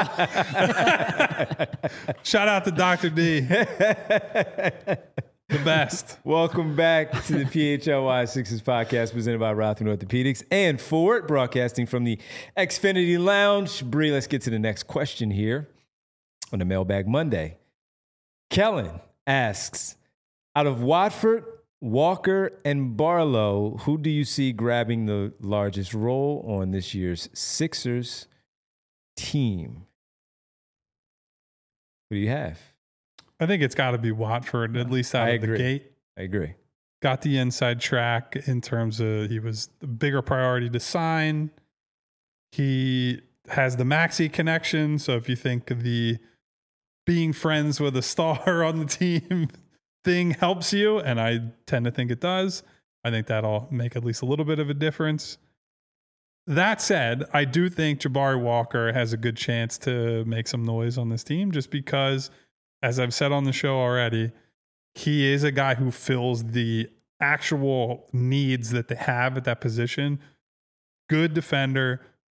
smiling. Shout out to Doctor D. The best. Welcome back to the P H L Y Sixers podcast presented by Rothman Orthopedics and Ford, broadcasting from the Xfinity Lounge. Bree, let's get to the next question here on the Mailbag Monday. Kellen asks, out of Watford, Walker, and Barlow, who do you see grabbing the largest role on this year's Sixers team? Who do you have? I think it's got to be Watford, at least out I of agree. the gate. I agree. Got the inside track in terms of he was the bigger priority to sign. He has the Maxey connection. So if you think the being friends with a star on the team thing helps you, and I tend to think it does, I think that'll make at least a little bit of a difference. That said, I do think Jabari Walker has a good chance to make some noise on this team just because, as I've said on the show already, he is a guy who fills the actual needs that they have at that position. Good defender,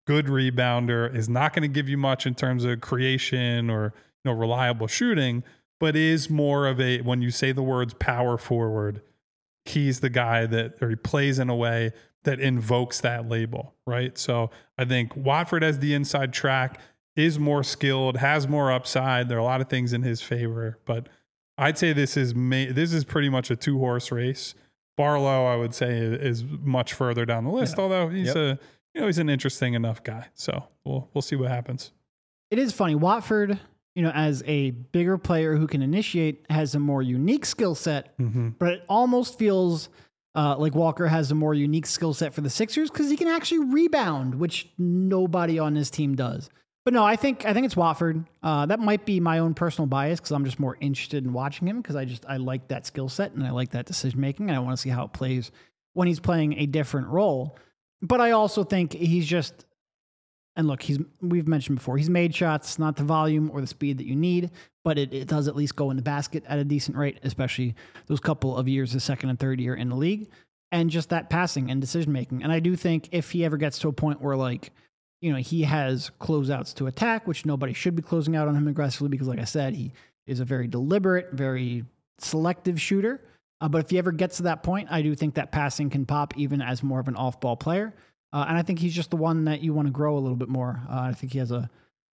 good rebounder, is not going to give you much in terms of creation or, you know, reliable shooting, but is more of a, when you say the words power forward, he's the guy that, or he plays in a way that invokes that label, right? So I think Watford has the inside track, is more skilled, has more upside. There are a lot of things in his favor, but I'd say this is ma- this is pretty much a two horse race. Barlow, I would say, is much further down the list, yeah. although he's yep. a you know he's an interesting enough guy. So we'll we'll see what happens. It is funny, Watford, you know, as a bigger player who can initiate, has a more unique skill set, mm-hmm. but it almost feels uh, like Walker has a more unique skill set for the Sixers because he can actually rebound, which nobody on this team does. But no, I think I think it's Watford. Uh, that might be my own personal bias because I'm just more interested in watching him because I just I like that skill set and I like that decision making and I want to see how it plays when he's playing a different role. But I also think he's just, and look, he's we've mentioned before, he's made shots, not the volume or the speed that you need, but it, it does at least go in the basket at a decent rate, especially those couple of years, the second and third year in the league, and just that passing and decision making. And I do think if he ever gets to a point where like, you know, he has closeouts to attack, which nobody should be closing out on him aggressively because, like I said, he is a very deliberate, very selective shooter. Uh, but if he ever gets to that point, I do think that passing can pop even as more of an off-ball player. Uh, and I think he's just the one that you want to grow a little bit more. Uh, I think he has a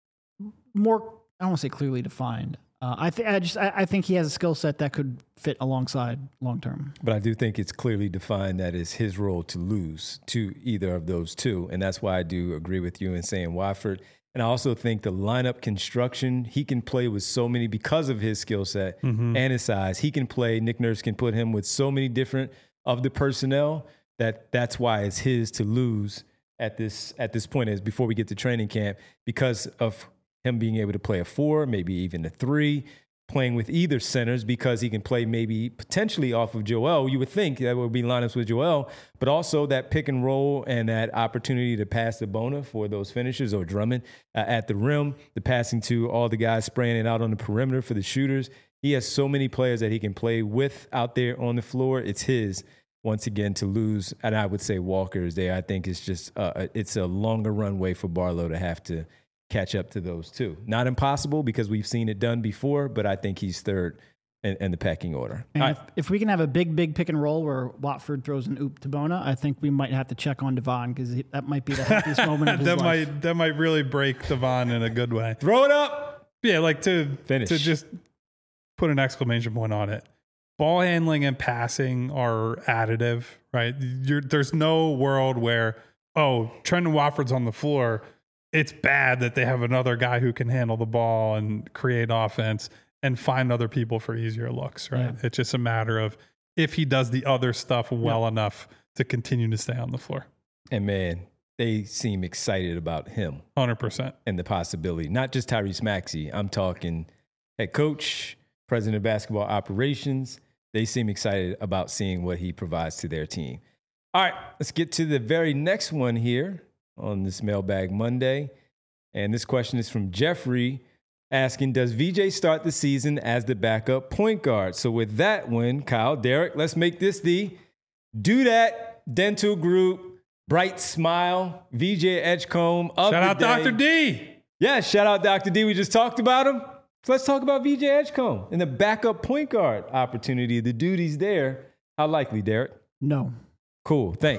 more, I don't want to say clearly defined. Uh, I, th- I just I, I think he has a skill set that could fit alongside long term. But I do think it's clearly defined that it's his role to lose to either of those two, and that's why I do agree with you in saying Watford. And I also think the lineup construction, he can play with so many because of his skill set mm-hmm. and his size. He can play. Nick Nurse can put him with so many different of the personnel that that's why it's his to lose at this at this point is before we get to training camp because of him being able to play a four, maybe even a three, playing with either centers because he can play maybe potentially off of Joel. You would think that would be lineups with Joel, but also that pick and roll and that opportunity to pass the Bona for those finishes or Drummond uh, at the rim, the passing to all the guys spraying it out on the perimeter for the shooters. He has so many players that he can play with out there on the floor. It's his once again to lose. And I would say Walker is there. I think it's just uh, it's a longer runway for Barlow to have to catch up to those two. Not impossible because we've seen it done before, but I think he's third in, in the pecking order. And I, if, if we can have a big, big pick and roll where Watford throws an oop to Bona, I think we might have to check on Devon because that might be the happiest moment of his that life. might that might really break Devon in a good way. Throw it up. Yeah, like to Finish. to just put an exclamation point on it. Ball handling and passing are additive, right? You're, there's no world where, oh, Trendon Watford's on the floor. It's bad that they have another guy who can handle the ball and create offense and find other people for easier looks, right? Yeah. It's just a matter of if he does the other stuff well yeah. enough to continue to stay on the floor. And man, they seem excited about him. one hundred percent. And the possibility. Not just Tyrese Maxey. I'm talking head coach, president of basketball operations. They seem excited about seeing what he provides to their team. All right, let's get to the very next one here on this Mailbag Monday. And this question is from Jeffrey asking, does V J start the season as the backup point guard? So with that one, Kyle, Derek, let's make this the Do That Dental Group Bright Smile V J Edgecombe of Shout the out day. Doctor D. Yeah, shout out Doctor D. We just talked about him. So let's talk about V J Edgecombe and the backup point guard opportunity, the duties there. How likely, Derek? No. Cool, thanks.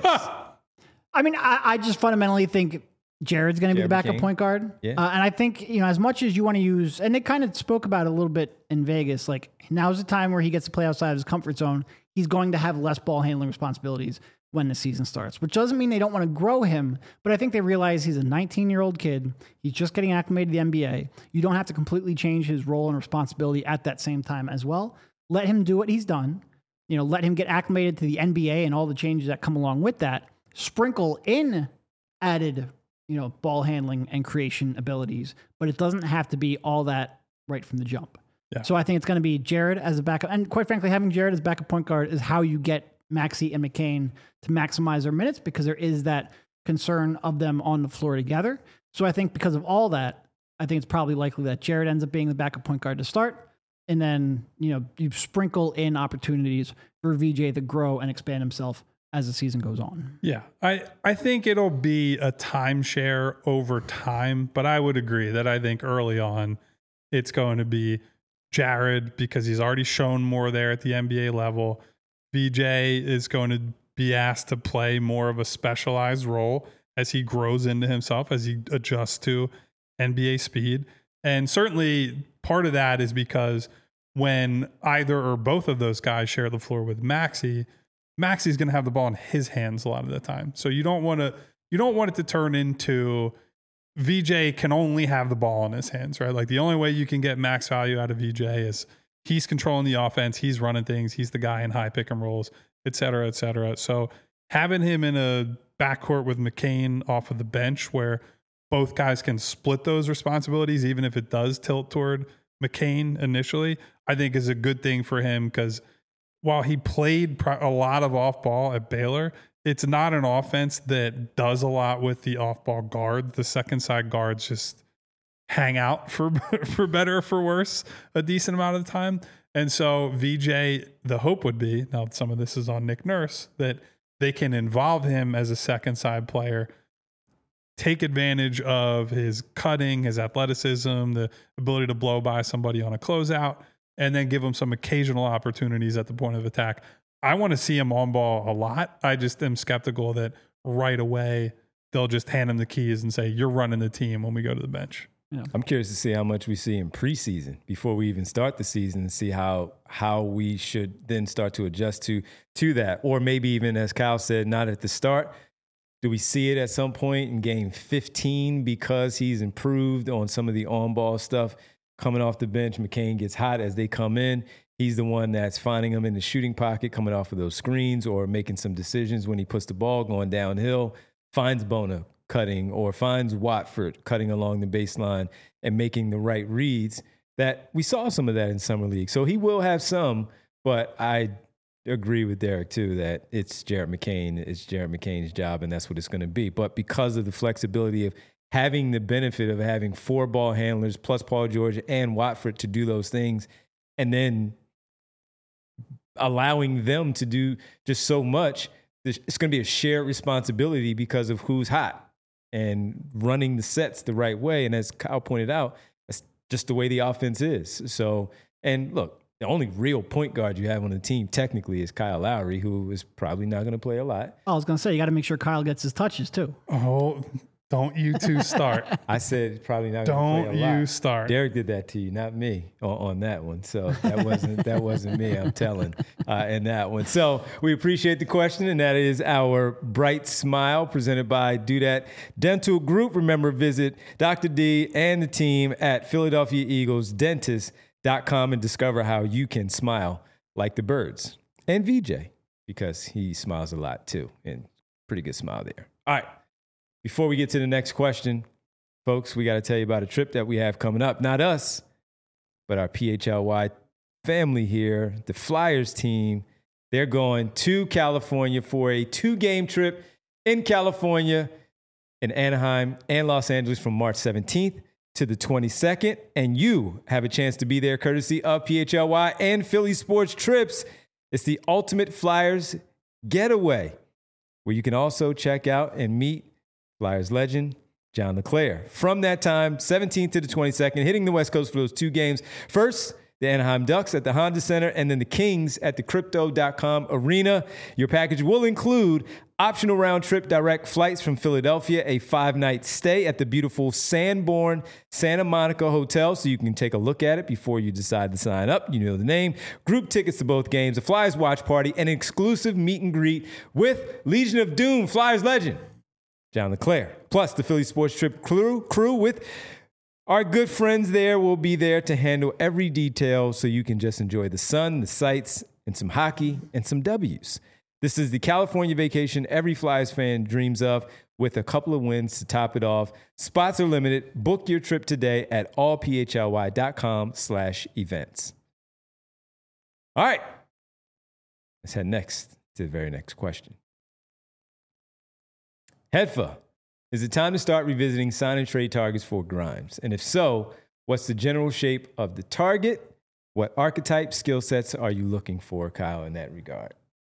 I mean, I, I just fundamentally think Jared's going to be the backup McCain. point guard. Yeah. Uh, and I think, you know, as much as you want to use, and they kind of spoke about it a little bit in Vegas, like now's the time where he gets to play outside of his comfort zone. He's going to have less ball handling responsibilities when the season starts, which doesn't mean they don't want to grow him, but I think they realize he's a nineteen-year-old kid. He's just getting acclimated to the N B A. You don't have to completely change his role and responsibility at that same time as well. Let him do what he's done. You know, let him get acclimated to the N B A and all the changes that come along with that. Sprinkle in added, you know, ball handling and creation abilities, but it doesn't have to be all that right from the jump. Yeah. So I think it's going to be Jared as a backup. And quite frankly, having Jared as backup point guard is how you get Maxey and McCain to maximize their minutes because there is that concern of them on the floor together. So I think because of all that, I think it's probably likely that Jared ends up being the backup point guard to start. And then, you know, you sprinkle in opportunities for V J to grow and expand himself as the season goes on. Yeah, I, I think it'll be a timeshare over time, but I would agree that I think early on it's going to be Jared because he's already shown more there at the N B A level. V J is going to be asked to play more of a specialized role as he grows into himself, as he adjusts to N B A speed. And certainly part of that is because when either or both of those guys share the floor with Maxey, Maxey's going to have the ball in his hands a lot of the time. So you don't want to you don't want it to turn into V J can only have the ball in his hands, right? Like the only way you can get max value out of V J is he's controlling the offense, he's running things, he's the guy in high pick and rolls, et cetera, et cetera. So having him in a backcourt with McCain off of the bench where both guys can split those responsibilities, even if it does tilt toward McCain initially, I think is a good thing for him because while he played a lot of off ball at Baylor, it's not an offense that does a lot with the off ball guard. The second side guards just hang out for, for better or for worse a decent amount of the time. And so V J, the hope would be, now some of this is on Nick Nurse, that they can involve him as a second side player, take advantage of his cutting, his athleticism, the ability to blow by somebody on a closeout, and then give him some occasional opportunities at the point of attack. I want to see him on ball a lot. I just am skeptical that right away they'll just hand him the keys and say, you're running the team when we go to the bench. Yeah. I'm curious to see how much we see in preseason before we even start the season and see how how we should then start to adjust to to that. Or maybe even, as Kyle said, not at the start. Do we see it at some point in game fifteen because he's improved on some of the on-ball stuff coming off the bench? McCain gets hot as they come in. He's the one that's finding them in the shooting pocket, coming off of those screens or making some decisions when he puts the ball going downhill, finds Bona cutting or finds Watford cutting along the baseline and making the right reads. That we saw some of that in Summer League. So he will have some, but I agree with Derek too that it's Jared McCain. It's Jared McCain's job, and that's what it's going to be. But because of the flexibility of having the benefit of having four ball handlers plus Paul George and Watford to do those things, and then allowing them to do just so much, it's going to be a shared responsibility because of who's hot and running the sets the right way. And as Kyle pointed out, that's just the way the offense is. So, and look, the only real point guard you have on the team technically is Kyle Lowry, who is probably not going to play a lot. I was going to say, you got to make sure Kyle gets his touches too. Oh, don't you two start. I said probably not going to play a lot. Don't you start. Derek did that to you, not me, on, on that one. So that wasn't that wasn't me, I'm telling, uh, in that one. So we appreciate the question, and that is our Bright Smile presented by Do That Dental Group. Remember, visit Doctor D and the team at Philadelphia Eagles Dentist dot com and discover how you can smile like the birds. And V J, because he smiles a lot too, and pretty good smile there. All right. Before we get to the next question, folks, we got to tell you about a trip that we have coming up. Not us, but our P H L Y family here, the Flyers team. They're going to California for a two-game trip in California, in Anaheim and Los Angeles from March seventeenth to the twenty-second. And you have a chance to be there courtesy of P H L Y and Philly Sports Trips. It's the ultimate Flyers getaway, where you can also check out and meet Flyers legend John LeClair. From that time, seventeenth to the twenty-second, hitting the West Coast for those two games. First, the Anaheim Ducks at the Honda Center, and then the Kings at the Crypto dot com Arena. Your package will include optional round-trip direct flights from Philadelphia, a five-night stay at the beautiful Sanborn Santa Monica Hotel, so you can take a look at it before you decide to sign up. You know the name. Group tickets to both games, a Flyers watch party, and an exclusive meet and greet with Legion of Doom Flyers legend John LeClair. Plus, the Philly Sports Trip crew, crew with our good friends there will be there to handle every detail so you can just enjoy the sun, the sights, and some hockey and some W's. This is the California vacation every Flyers fan dreams of, with a couple of wins to top it off. Spots are limited. Book your trip today at all p h l y dot com slash events. All right. Let's head next to the very next question. Hedfa, is it time to start revisiting sign and trade targets for Grimes? And if so, what's the general shape of the target? What archetype skill sets are you looking for, Kyle, in that regard?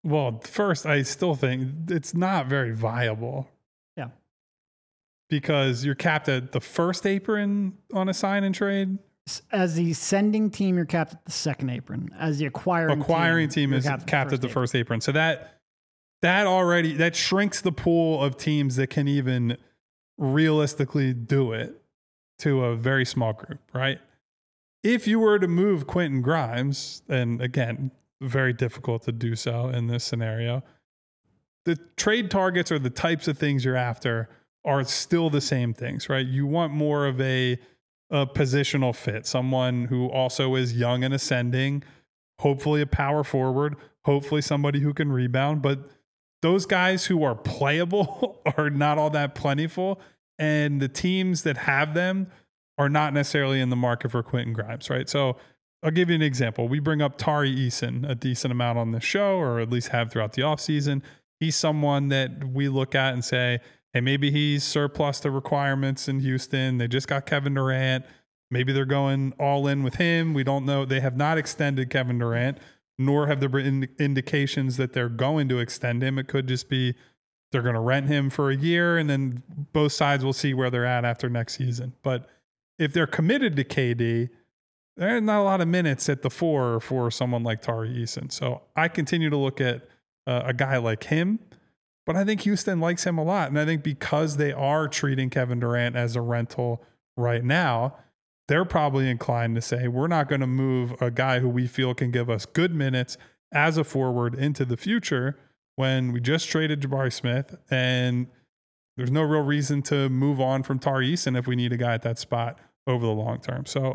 Well, first, I still think it's not very viable. Yeah. Because you're capped at the first apron on a sign and trade. As the sending team, you're capped at the second apron. As the acquiring, acquiring team, team is capped, capped at the apron. first apron. So that that already that shrinks the pool of teams that can even realistically do it to a very small group, right? If you were to move Quentin Grimes, and again, very difficult to do so in this scenario, the trade targets or the types of things you're after are still the same things, right? You want more of a, a positional fit, someone who also is young and ascending, hopefully a power forward, hopefully somebody who can rebound. But those guys who are playable are not all that plentiful. And the teams that have them are not necessarily in the market for Quentin Grimes, right? So I'll give you an example. We bring up Tari Eason a decent amount on the show, or at least have throughout the offseason. He's someone that we look at and say, hey, maybe he's surplus to requirements in Houston. They just got Kevin Durant. Maybe they're going all in with him. We don't know. They have not extended Kevin Durant, nor have there been indications that they're going to extend him. It could just be they're going to rent him for a year, and then both sides will see where they're at after next season. But if they're committed to K D, there's not a lot of minutes at the four for someone like Tari Eason. So I continue to look at uh, a guy like him, but I think Houston likes him a lot. And I think because they are treating Kevin Durant as a rental right now, they're probably inclined to say, we're not going to move a guy who we feel can give us good minutes as a forward into the future when we just traded Jabari Smith, and there's no real reason to move on from Tari Eason if we need a guy at that spot over the long term. So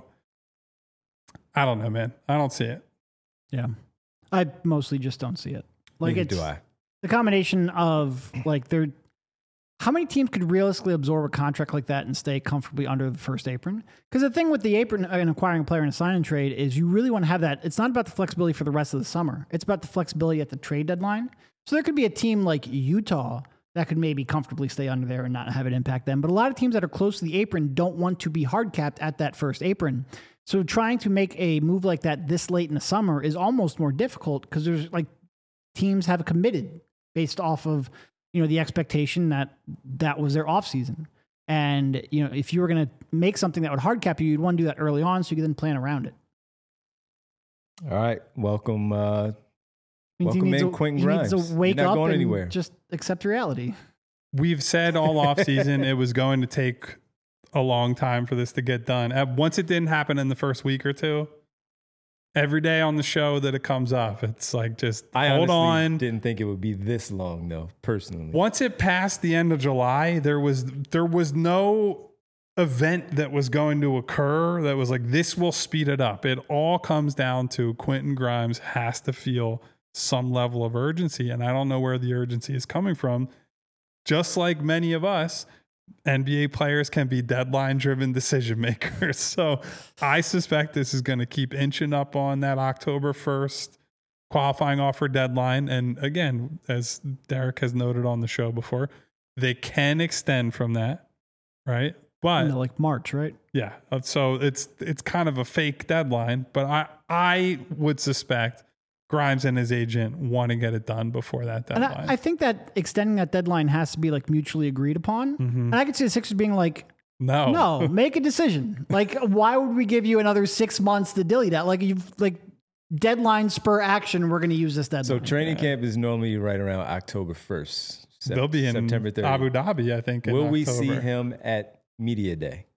I don't know, man. I don't see it. Yeah. I mostly just don't see it. Like, Neither it's do I. the combination of like they're how many teams could realistically absorb a contract like that and stay comfortably under the first apron? Because the thing with the apron and acquiring a player in a sign and trade is you really want to have that. It's not about the flexibility for the rest of the summer. It's about the flexibility at the trade deadline. So there could be a team like Utah that could maybe comfortably stay under there and not have it impact them. But a lot of teams that are close to the apron don't want to be hard capped at that first apron. So trying to make a move like that this late in the summer is almost more difficult because there's like teams have committed based off of, you know, the expectation that that was their offseason. And, you know, if you were going to make something that would hard cap you, you'd want to do that early on so you could then plan around it. All right. Welcome. Uh, Means welcome he needs in to, Quentin he Grimes. needs to wake You're not up going and anywhere. just accept reality. We've said all offseason it was going to take a long time for this to get done. Uh, Once it didn't happen in the first week or two, every day on the show that it comes up, it's like just I hold honestly on. didn't think it would be this long, though, personally. Once it passed the end of July, there was there was no event that was going to occur that was like, this will speed it up. It all comes down to Quentin Grimes has to feel some level of urgency, and I don't know where the urgency is coming from. Just like many of us, N B A players can be deadline-driven decision makers. So I suspect this is going to keep inching up on that October first qualifying offer deadline. And again, as Derek has noted on the show before, they can extend from that, right? But You know, like March, right? yeah, so it's it's kind of a fake deadline. But I I would suspect Grimes and his agent want to get it done before that And deadline. I, I think that extending that deadline has to be like mutually agreed upon. And I could see the Sixers being like, no, no, make a decision. Like, why would we give you another six months to dilly that? Like, you've like deadline spur action. We're going to use this deadline. So training camp is normally right around October first. Sep- they'll be in September thirtieth. Abu Dhabi, I think. in Will we see October. him at Media Day?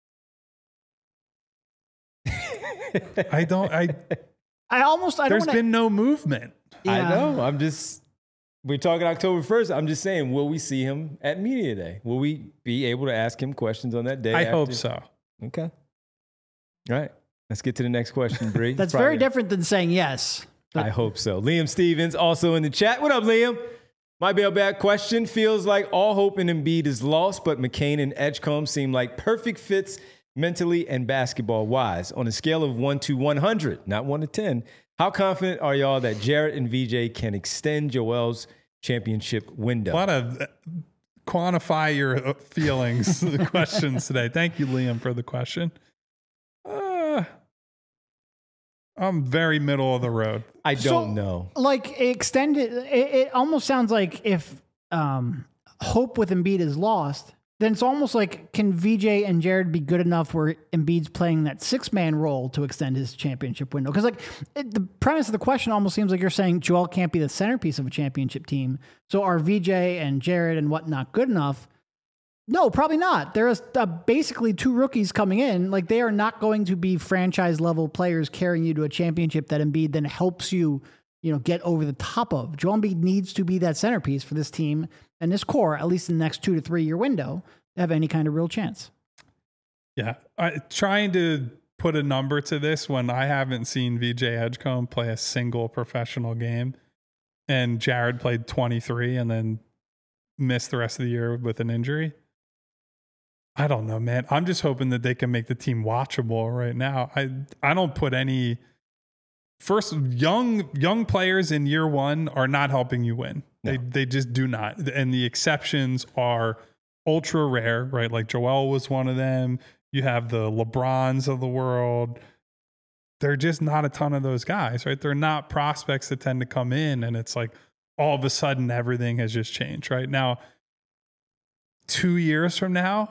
I don't. I I almost, I don't there's want to. been no movement. I know. I'm just, we're talking October first. I'm just saying, will we see him at Media Day? Will we be able to ask him questions on that day? I after? hope so. Okay. All right. Let's get to the next question, Bree. That's Probably- very different than saying yes. I hope so. Liam Stevens also in the chat. What up, Liam? My bailback question feels like all hope in Embiid is lost, but McCain and Edgecombe seem like perfect fits mentally and basketball-wise. On a scale of one to one hundred, not one to ten, how confident are y'all that Jarrett and V J can extend Joel's championship window? A lot of uh, quantify your uh, feelings, the questions today. Thank you, Liam, for the question. Uh, I'm very middle of the road. I don't So, know. Like extended, it, it almost sounds like if um, hope with Embiid is lost, then it's almost like, can V J and Jared be good enough where Embiid's playing that six man role to extend his championship window? Because like it, the premise of the question almost seems like you're saying Joel can't be the centerpiece of a championship team. So are V J and Jared and whatnot good enough? No, probably not. There's uh, basically two rookies coming in. Like they are not going to be franchise level players carrying you to a championship that Embiid then helps you, you know, get over the top of. Joel Embiid needs to be that centerpiece for this team and this core, at least in the next two to three year window, to have any kind of real chance. Yeah. I, trying to put a number to this when I haven't seen V J Edgecombe play a single professional game, and Jared played twenty-three and then missed the rest of the year with an injury. I don't know, man. I'm just hoping that they can make the team watchable right now. I I don't put any first young young players in year one are not helping you win. No. They they just do not. And the exceptions are ultra rare, right? Like Joel was one of them. You have the LeBrons of the world. They're just not a ton of those guys, right? They're not prospects that tend to come in and it's like all of a sudden everything has just changed, right? Now, two years from now,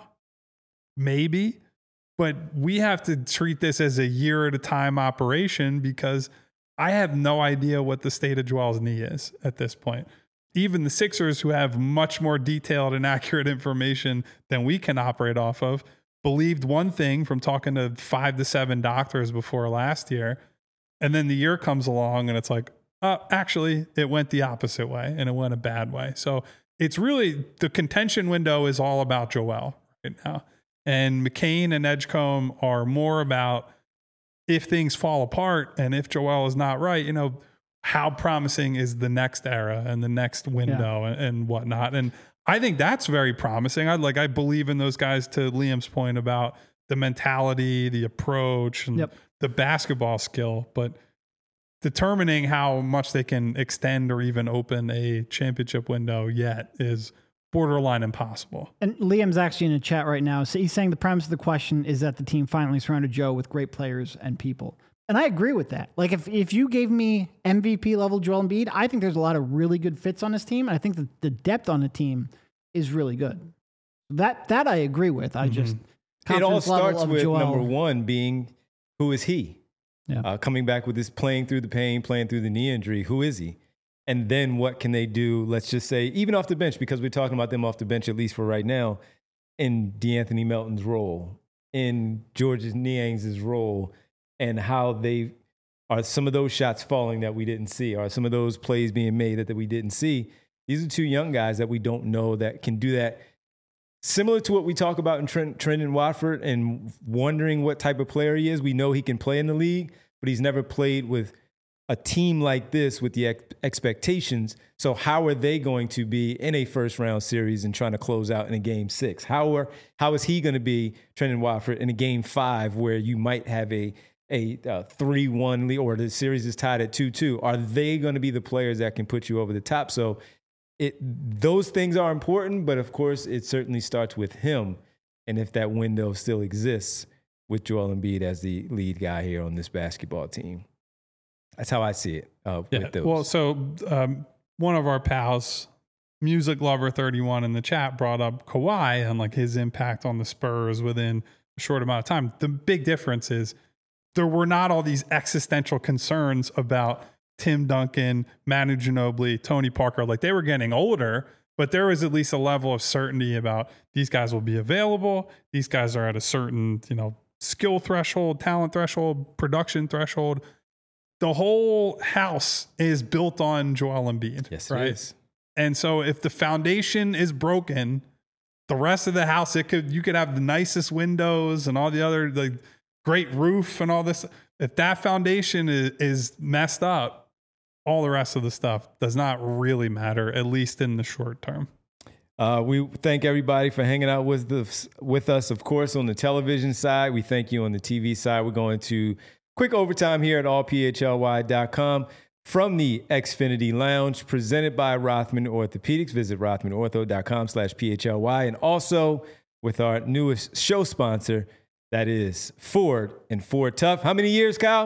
maybe, but we have to treat this as a year at a time operation because I have no idea what the state of Joel's knee is at this point. Even the Sixers, who have much more detailed and accurate information than we can operate off of, believed one thing from talking to five to seven doctors before last year. And then the year comes along and it's like, uh, actually, it went the opposite way and it went a bad way. So it's really the contention window is all about Joel right now. And McCain and Edgecombe are more about if things fall apart and if Joel is not right, you know, how promising is the next era and the next window yeah. and, and whatnot. And I think that's very promising. I like, I believe in those guys, to Liam's point about the mentality, the approach, and yep. the basketball skill, but determining how much they can extend or even open a championship window yet is borderline impossible. And Liam's actually in the chat right now. So he's saying the premise of the question is that the team finally surrounded Joe with great players and people. And I agree with that. Like if, if you gave me M V P level Joel Embiid, I think there's a lot of really good fits on this team. And I think that the depth on the team is really good. That, that I agree with. I mm-hmm. just, it all starts with Joel. Number one being, who is he? Yeah. Uh, coming back with this playing through the pain, playing through the knee injury. Who is he? And then what can they do, let's just say, even off the bench, because we're talking about them off the bench, at least for right now, in DeAnthony Melton's role, in Georges Niang's role, and how they are some of those shots falling that we didn't see, are some of those plays being made that, that we didn't see. These are two young guys that we don't know that can do that. Similar to what we talk about in Trent, Trendon Watford and wondering what type of player he is. We know he can play in the league, but he's never played with a team like this with the ex- expectations. So how are they going to be in a first round series and trying to close out in a game six? How are how is he going to be, Trendon Watford, in a game five where you might have a a uh, three one lead or the series is tied at two two? Are they going to be the players that can put you over the top? So it those things are important, but of course it certainly starts with him. And if that window still exists with Joel Embiid as the lead guy here on this basketball team. That's how I see it. Uh, yeah. with those. Well, so um, one of our pals, Music Lover thirty-one in the chat, brought up Kawhi and like his impact on the Spurs within a short amount of time. The big difference is there were not all these existential concerns about Tim Duncan, Manu Ginobili, Tony Parker. Like they were getting older, but there was at least a level of certainty about these guys will be available. These guys are at a certain, you know, skill threshold, talent threshold, production threshold. The whole house is built on Joel Embiid. Yes, right? It is. And so if the foundation is broken, the rest of the house, it could you could have the nicest windows and all the other like great roof and all this. If that foundation is, is messed up, all the rest of the stuff does not really matter, at least in the short term. Uh, we thank everybody for hanging out with the, with us, of course, on the television side. We thank you on the T V side. We're going to quick overtime here at all p h l y dot com from the Xfinity Lounge, presented by Rothman Orthopedics. Visit rothman ortho dot com slash p h l y. And also with our newest show sponsor, that is Ford and Ford Tough. How many years, Kyle?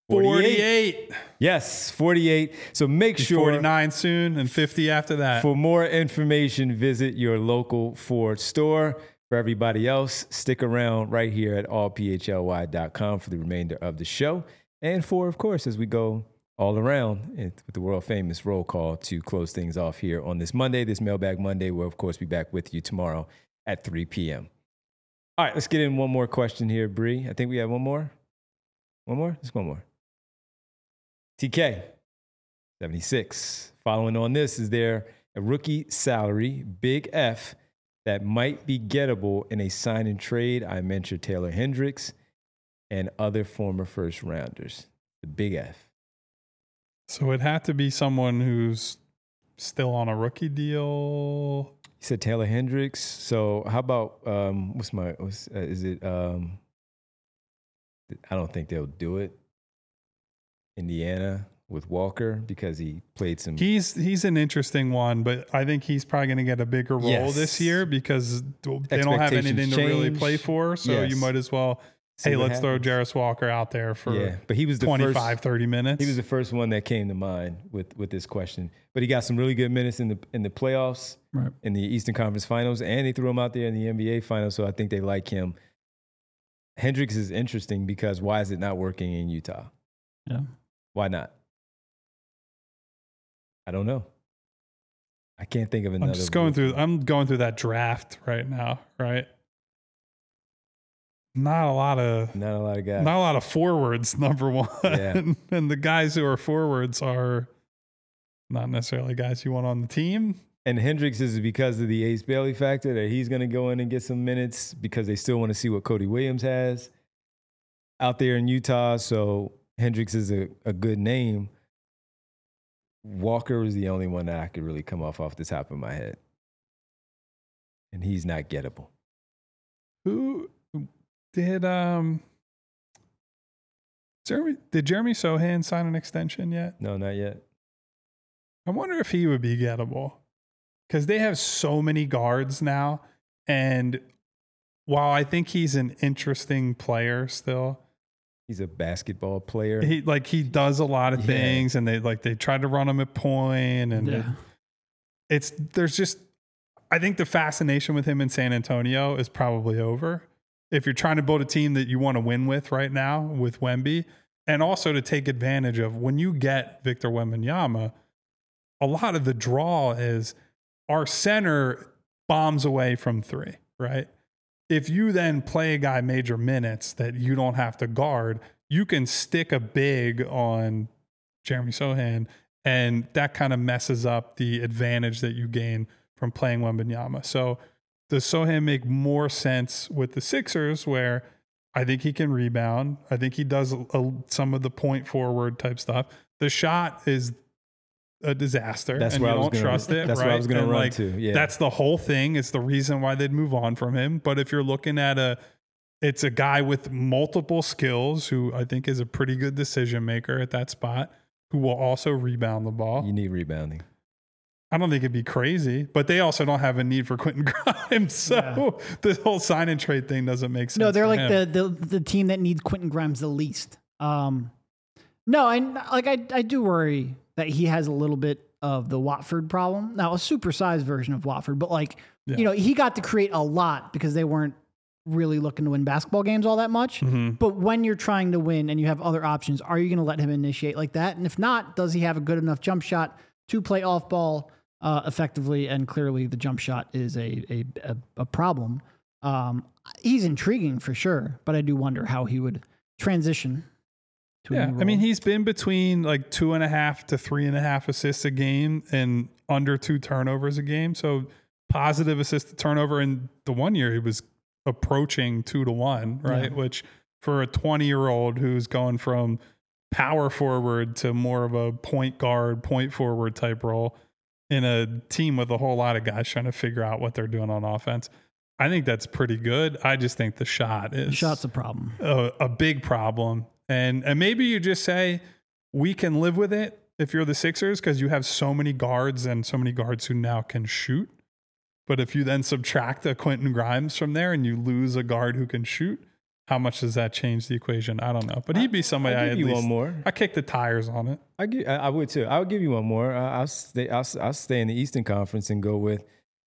forty-eight. Yes, forty-eight. So make He's sure forty-nine soon and fifty after that. for more information, visit your local Ford store. For everybody else, stick around right here at all p h l y dot com for the remainder of the show. And for, of course, as we go all around with the world famous roll call to close things off here on this Monday, this Mailbag Monday. We'll, of course, be back with you tomorrow at three p.m. All right, let's get in one more question here, Bree. I think we have one more. One more? Just one more. T K, seventy-six. Following on this, is there a rookie salary, big F, that might be gettable in a sign and trade? I mentioned Taylor Hendricks and other former first rounders. The big F. So it had to be someone who's still on a rookie deal. You said Taylor Hendricks. So how about um, what's my? What's, uh, is it? Um, I don't think they'll do it. Indiana with Walker because he played some. He's he's an interesting one, but I think he's probably going to get a bigger role Yes. this year because they don't have anything Expectations to really change. play for. So Yes. you might as well, See hey, what let's throw happens. Jarris Walker out there for Yeah, but he was the twenty-five, first, thirty minutes. He was the first one that came to mind with with this question. But he got some really good minutes in the in the playoffs, Right. in the Eastern Conference Finals, and they threw him out there in the N B A Finals. So I think they like him. Hendricks is interesting because why is it not working in Utah? Yeah. Why not? I don't know. I can't think of another. I'm just going rookie. through. I'm going through that draft right now. Right. Not a lot of Not a lot of guys. not a lot of forwards. Number one, Yeah. and the guys who are forwards are not necessarily guys you want on the team. And Hendricks is because of the Ace Bailey factor that he's going to go in and get some minutes because they still want to see what Cody Williams has out there in Utah. So Hendricks is a, a good name. Walker was the only one that I could really come off off the top of my head. And he's not gettable. Who did um Jeremy did Jeremy Sohan sign an extension yet? No, not yet. I wonder if he would be gettable. Because they have so many guards now. And while I think he's an interesting player still, He's a basketball player. he like he does a lot of Yeah. things and they like they tried to run him at point and Yeah. it- it's there's just I think the fascination with him in San Antonio is probably over. If you're trying to build a team that you want to win with right now with Wemby, and also to take advantage of when you get Victor Wembanyama, a lot of the draw is our center bombs away from three, right? If you then play a guy major minutes that you don't have to guard, you can stick a big on Jeremy Sohan, and that kind of messes up the advantage that you gain from playing Wembanyama. So does Sohan make more sense with the Sixers where I think he can rebound. I think he does a, a, some of the point forward type stuff. The shot is a disaster That's and where you I was don't gonna- trust it. that's right? where I was gonna And, run like, to, yeah. That's the whole thing. It's the reason why they'd move on from him. But if you're looking at a, it's a guy with multiple skills who I think is a pretty good decision maker at that spot, who will also rebound the ball. You need rebounding. I don't think it'd be crazy, but they also don't have a need for Quentin Grimes. So Yeah. this whole sign and trade thing doesn't make sense. No, they're for like him. the, the the team that needs Quentin Grimes the least. Um, no, I like I I do worry that he has a little bit of the Watford problem. Now, a supersized version of Watford, but like Yeah. you know, he got to create a lot because they weren't really looking to win basketball games all that much. Mm-hmm. But when you're trying to win and you have other options, are you going to let him initiate like that? And if not, does he have a good enough jump shot to play off ball uh, effectively? And clearly, the jump shot is a a, a, a problem. Um, he's intriguing for sure, but I do wonder how he would transition to a Yeah, new I role. mean, he's been between like two and a half to three and a half assists a game and under two turnovers a game. So positive assist to turnover. In the one year, he was approaching two to one, right? Yeah. Which for a twenty year old who's going from power forward to more of a point guard, point forward type role in a team with a whole lot of guys trying to figure out what they're doing on offense. I think that's pretty good. I just think the shot is the shot's a problem. a, a big problem. And and maybe you just say, we can live with it if you're the Sixers because you have so many guards and so many guards who now can shoot. But if you then subtract a Quentin Grimes from there and you lose a guard who can shoot, how much does that change the equation? I don't know. But he'd be somebody I'll I give at you least, one more. I kick the tires on it. I, give, I, I would too. I would give you one more. Uh, I'll stay. I'll, I'll stay in the Eastern Conference and go with.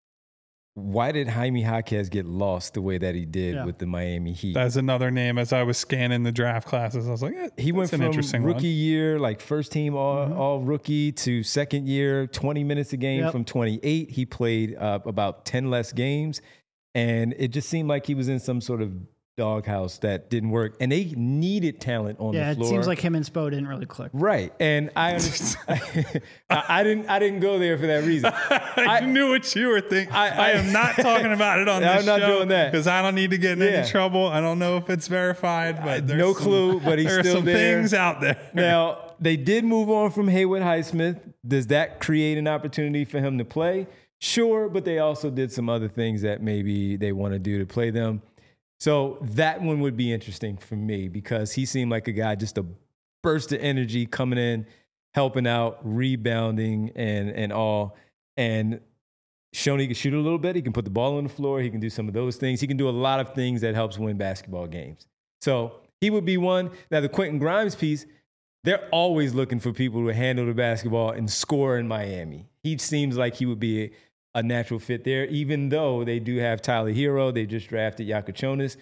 Why did Jaime Jaquez get lost the way that he did Yeah. with the Miami Heat? That's another name. As I was scanning the draft classes, I was like, eh, He went that's an from interesting rookie one. year, like first team all, Mm-hmm. all rookie, to second year, twenty minutes a game Yep. from twenty-eight. He played uh, about ten less games, and it just seemed like he was in some sort of doghouse that didn't work. And they needed talent on Yeah, the it floor. seems like him and Spo didn't really click. Right, and I, understand, I, I didn't. I didn't go there for that reason. I, knew what you were thinking. I, I- I am not talking about it on I'm this not show doing that. because I don't need to get in Yeah. any trouble. I don't know if it's verified, but there's no some- clue, but he's there are still some there. things out there. Now, they did move on from Haywood Highsmith. Does that create an opportunity for him to play? Sure, but they also did some other things that maybe they want to do to play them. So that one would be interesting for me because he seemed like a guy, just a burst of energy coming in, helping out, rebounding, and and all. And shown he can shoot a little bit. He can put the ball on the floor. He can do some of those things. He can do a lot of things that helps win basketball games. So he would be one. Now, the Quentin Grimes piece, they're always looking for people to handle the basketball and score in Miami. He seems like he would be a, a natural fit there, even though they do have Tyler Hero. They just drafted Yakachonis.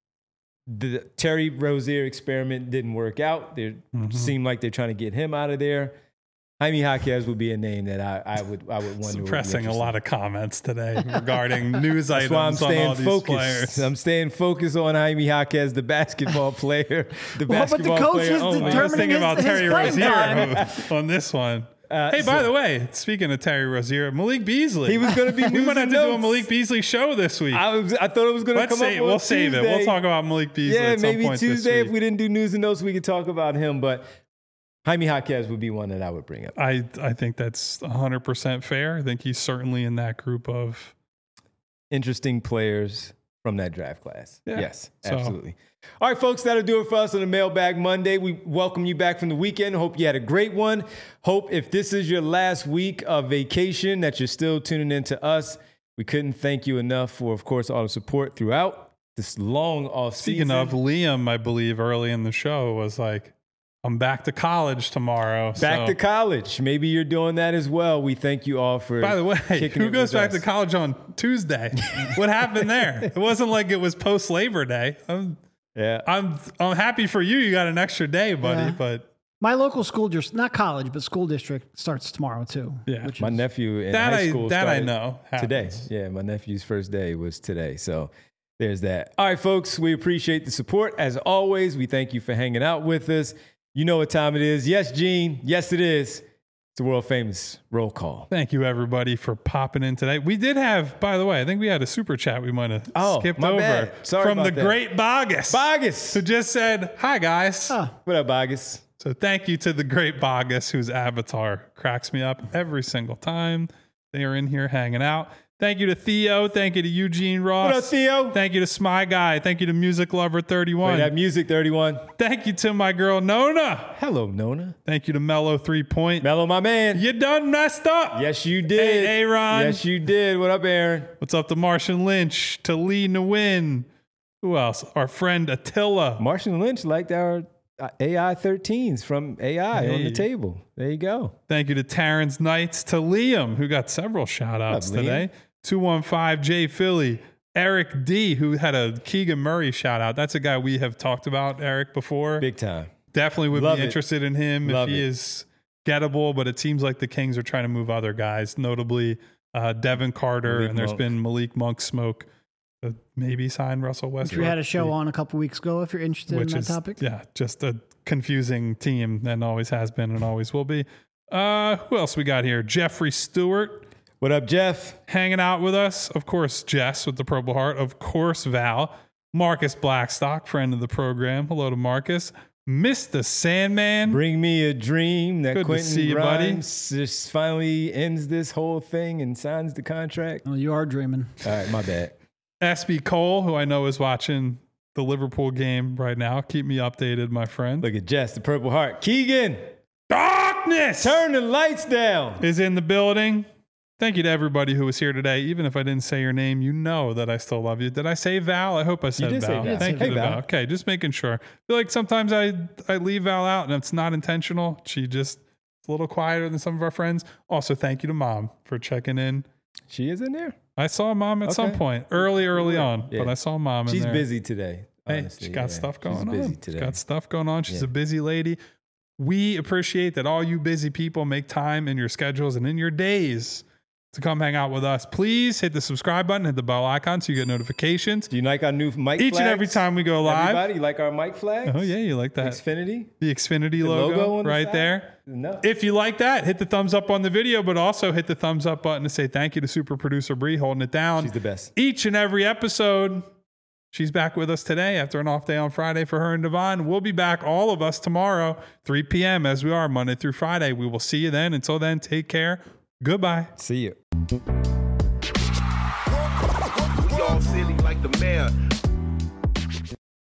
The Terry Rozier experiment didn't work out. They Mhm. seemed like they're trying to get him out of there. Jaime Jaquez would be a name that I, I would I would wonder. Suppressing a lot of comments today regarding news That's items why I'm on staying all these focused. players. I'm staying focused on Jaime Jaquez, the basketball player. The Well, but the basketball coach player is only. I was determining thinking his- about his Terry playing time. Rozier on this one. Uh, hey, by so- the way, speaking of Terry Rozier, Malik Beasley. He was going to be we might losing have to do a notes. Malik Beasley show this week. I was. I thought it was going to Let's come say up on we'll save it. We'll Tuesday. talk about Malik Beasley Yeah, at some maybe point Tuesday this if week. we didn't do news and notes, we could talk about him. But Jaime Jaquez would be one that I would bring up. I, I think that's one hundred percent fair. I think he's certainly in that group of Interesting players from that draft class. Yeah. Yes, So- absolutely. All right, folks, that'll do it for us on the Mailbag Monday. We welcome you back from the weekend. Hope you had a great one. Hope if this is your last week of vacation that you're still tuning in to us. We couldn't thank you enough for, of course, all the support throughout this long off Speaking season. of, Liam, I believe early in the show was like, I'm back to college tomorrow. Back so. to college. Maybe you're doing that as well. We thank you all for. By the way, kicking who it goes with back us. to college on Tuesday? What happened there? It wasn't like it was post Labor Day. I'm, Yeah. I'm, I'm happy for you. You got an extra day, buddy. Yeah. But My local school, just not college, but school district starts tomorrow too. Yeah. which My is- nephew in that high I school that I started know today. happens. Yeah, my nephew's first day was today. So there's that. All right, folks, we appreciate the support. As always, we thank you for hanging out with us. You know what time it is. Yes, Gene. Yes, it is. It's the world famous roll call. Thank you, everybody, for popping in today. We did have, by the way, I think we had a super chat we might have Oh, skipped my over bad. Sorry from about the that. great Bogus, Bogus. who just said, "Hi, guys." Huh. What up, Bogus? So thank you to the great Bogus, whose avatar cracks me up every single time they are in here hanging out. Thank you to Theo. Thank you to Eugene Ross. What up, Theo? Thank you to Smy Guy. Thank you to Music Lover thirty-one. Wait, that music thirty-one. Thank you to my girl Nona. Hello, Nona. Thank you to Mellow Three Point. Mello, my man. You done messed up. Yes, you did. Hey, Aaron. Yes, you did. What up, Aaron? What's up to Martian Lynch, to Lee Nguyen. Who else? Our friend Attila. Martian Lynch liked our uh, A I thirteens from A I on Hey. the table. There you go. Thank you to Terrence Knights, to Liam, who got several shout outs What up, Liam? today. two one five J Philly. Eric D, who had a Keegan Murray shout out. That's a guy we have talked about, Eric, before. Big time. Definitely would Love be it. interested in him Love if he it. is gettable, but it seems like the Kings are trying to move other guys, notably uh, Devin Carter, Malik and there's Monk. been Malik Monk smoke. Uh, maybe sign Russell which Westbrook. we had a show on a couple weeks ago. If you're interested which in that is topic, yeah, just a confusing team and always has been and always will be. Uh, who else we got here? Jeffrey Stewart What up, Jeff? hanging out with us. Of course, Jess with the Purple Heart. Of course, Val. Marcus Blackstock, friend of the program. Hello to Marcus. Mister Sandman. Bring me a dream that Good to Quentin see you, buddy. Grimes just finally ends this whole thing and signs the contract. well, you are dreaming. All right, my bad. S B Cole, who I know is watching the Liverpool game right now. Keep me updated, my friend. Look at Jess, the Purple Heart. Keegan, Darkness turn the lights down. is in the building. Thank you to everybody who was here today. Even if I didn't say your name, you know that I still love you. Did I say Val? I hope I said did say Val. Val. Thank Hey, you to Val. Val. Okay, just making sure. I feel like sometimes I, I leave Val out and it's not intentional. She just is a little quieter than some of our friends. Also, thank you to Mom for checking in. She is in there. I saw Mom at some Okay. point, early, early Yeah. on, Yeah. but I saw Mom in She's there. busy today. Hey, honestly, she got yeah. stuff She's going busy on. today. She's got stuff going on. She's Yeah. a busy lady. We appreciate that all you busy people make time in your schedules and in your days to come hang out with us. Please hit the subscribe button, hit the bell icon so you get notifications Do you like our new mic each flags? and every time we go live. Everybody, you like our mic flags? Oh yeah, you like that. Xfinity? The Xfinity The logo, on the right side? there. No. If you like that, hit the thumbs up on the video, but also hit the thumbs up button to say thank you to super producer Bree holding it down. She's the best. Each and every episode. She's back with us today after an off day on Friday for her and Devon. We'll be back, all of us, tomorrow, three p.m. as we are Monday through Friday. We will see you then. Until then, take care. Goodbye. See you. We all silly like the mayor.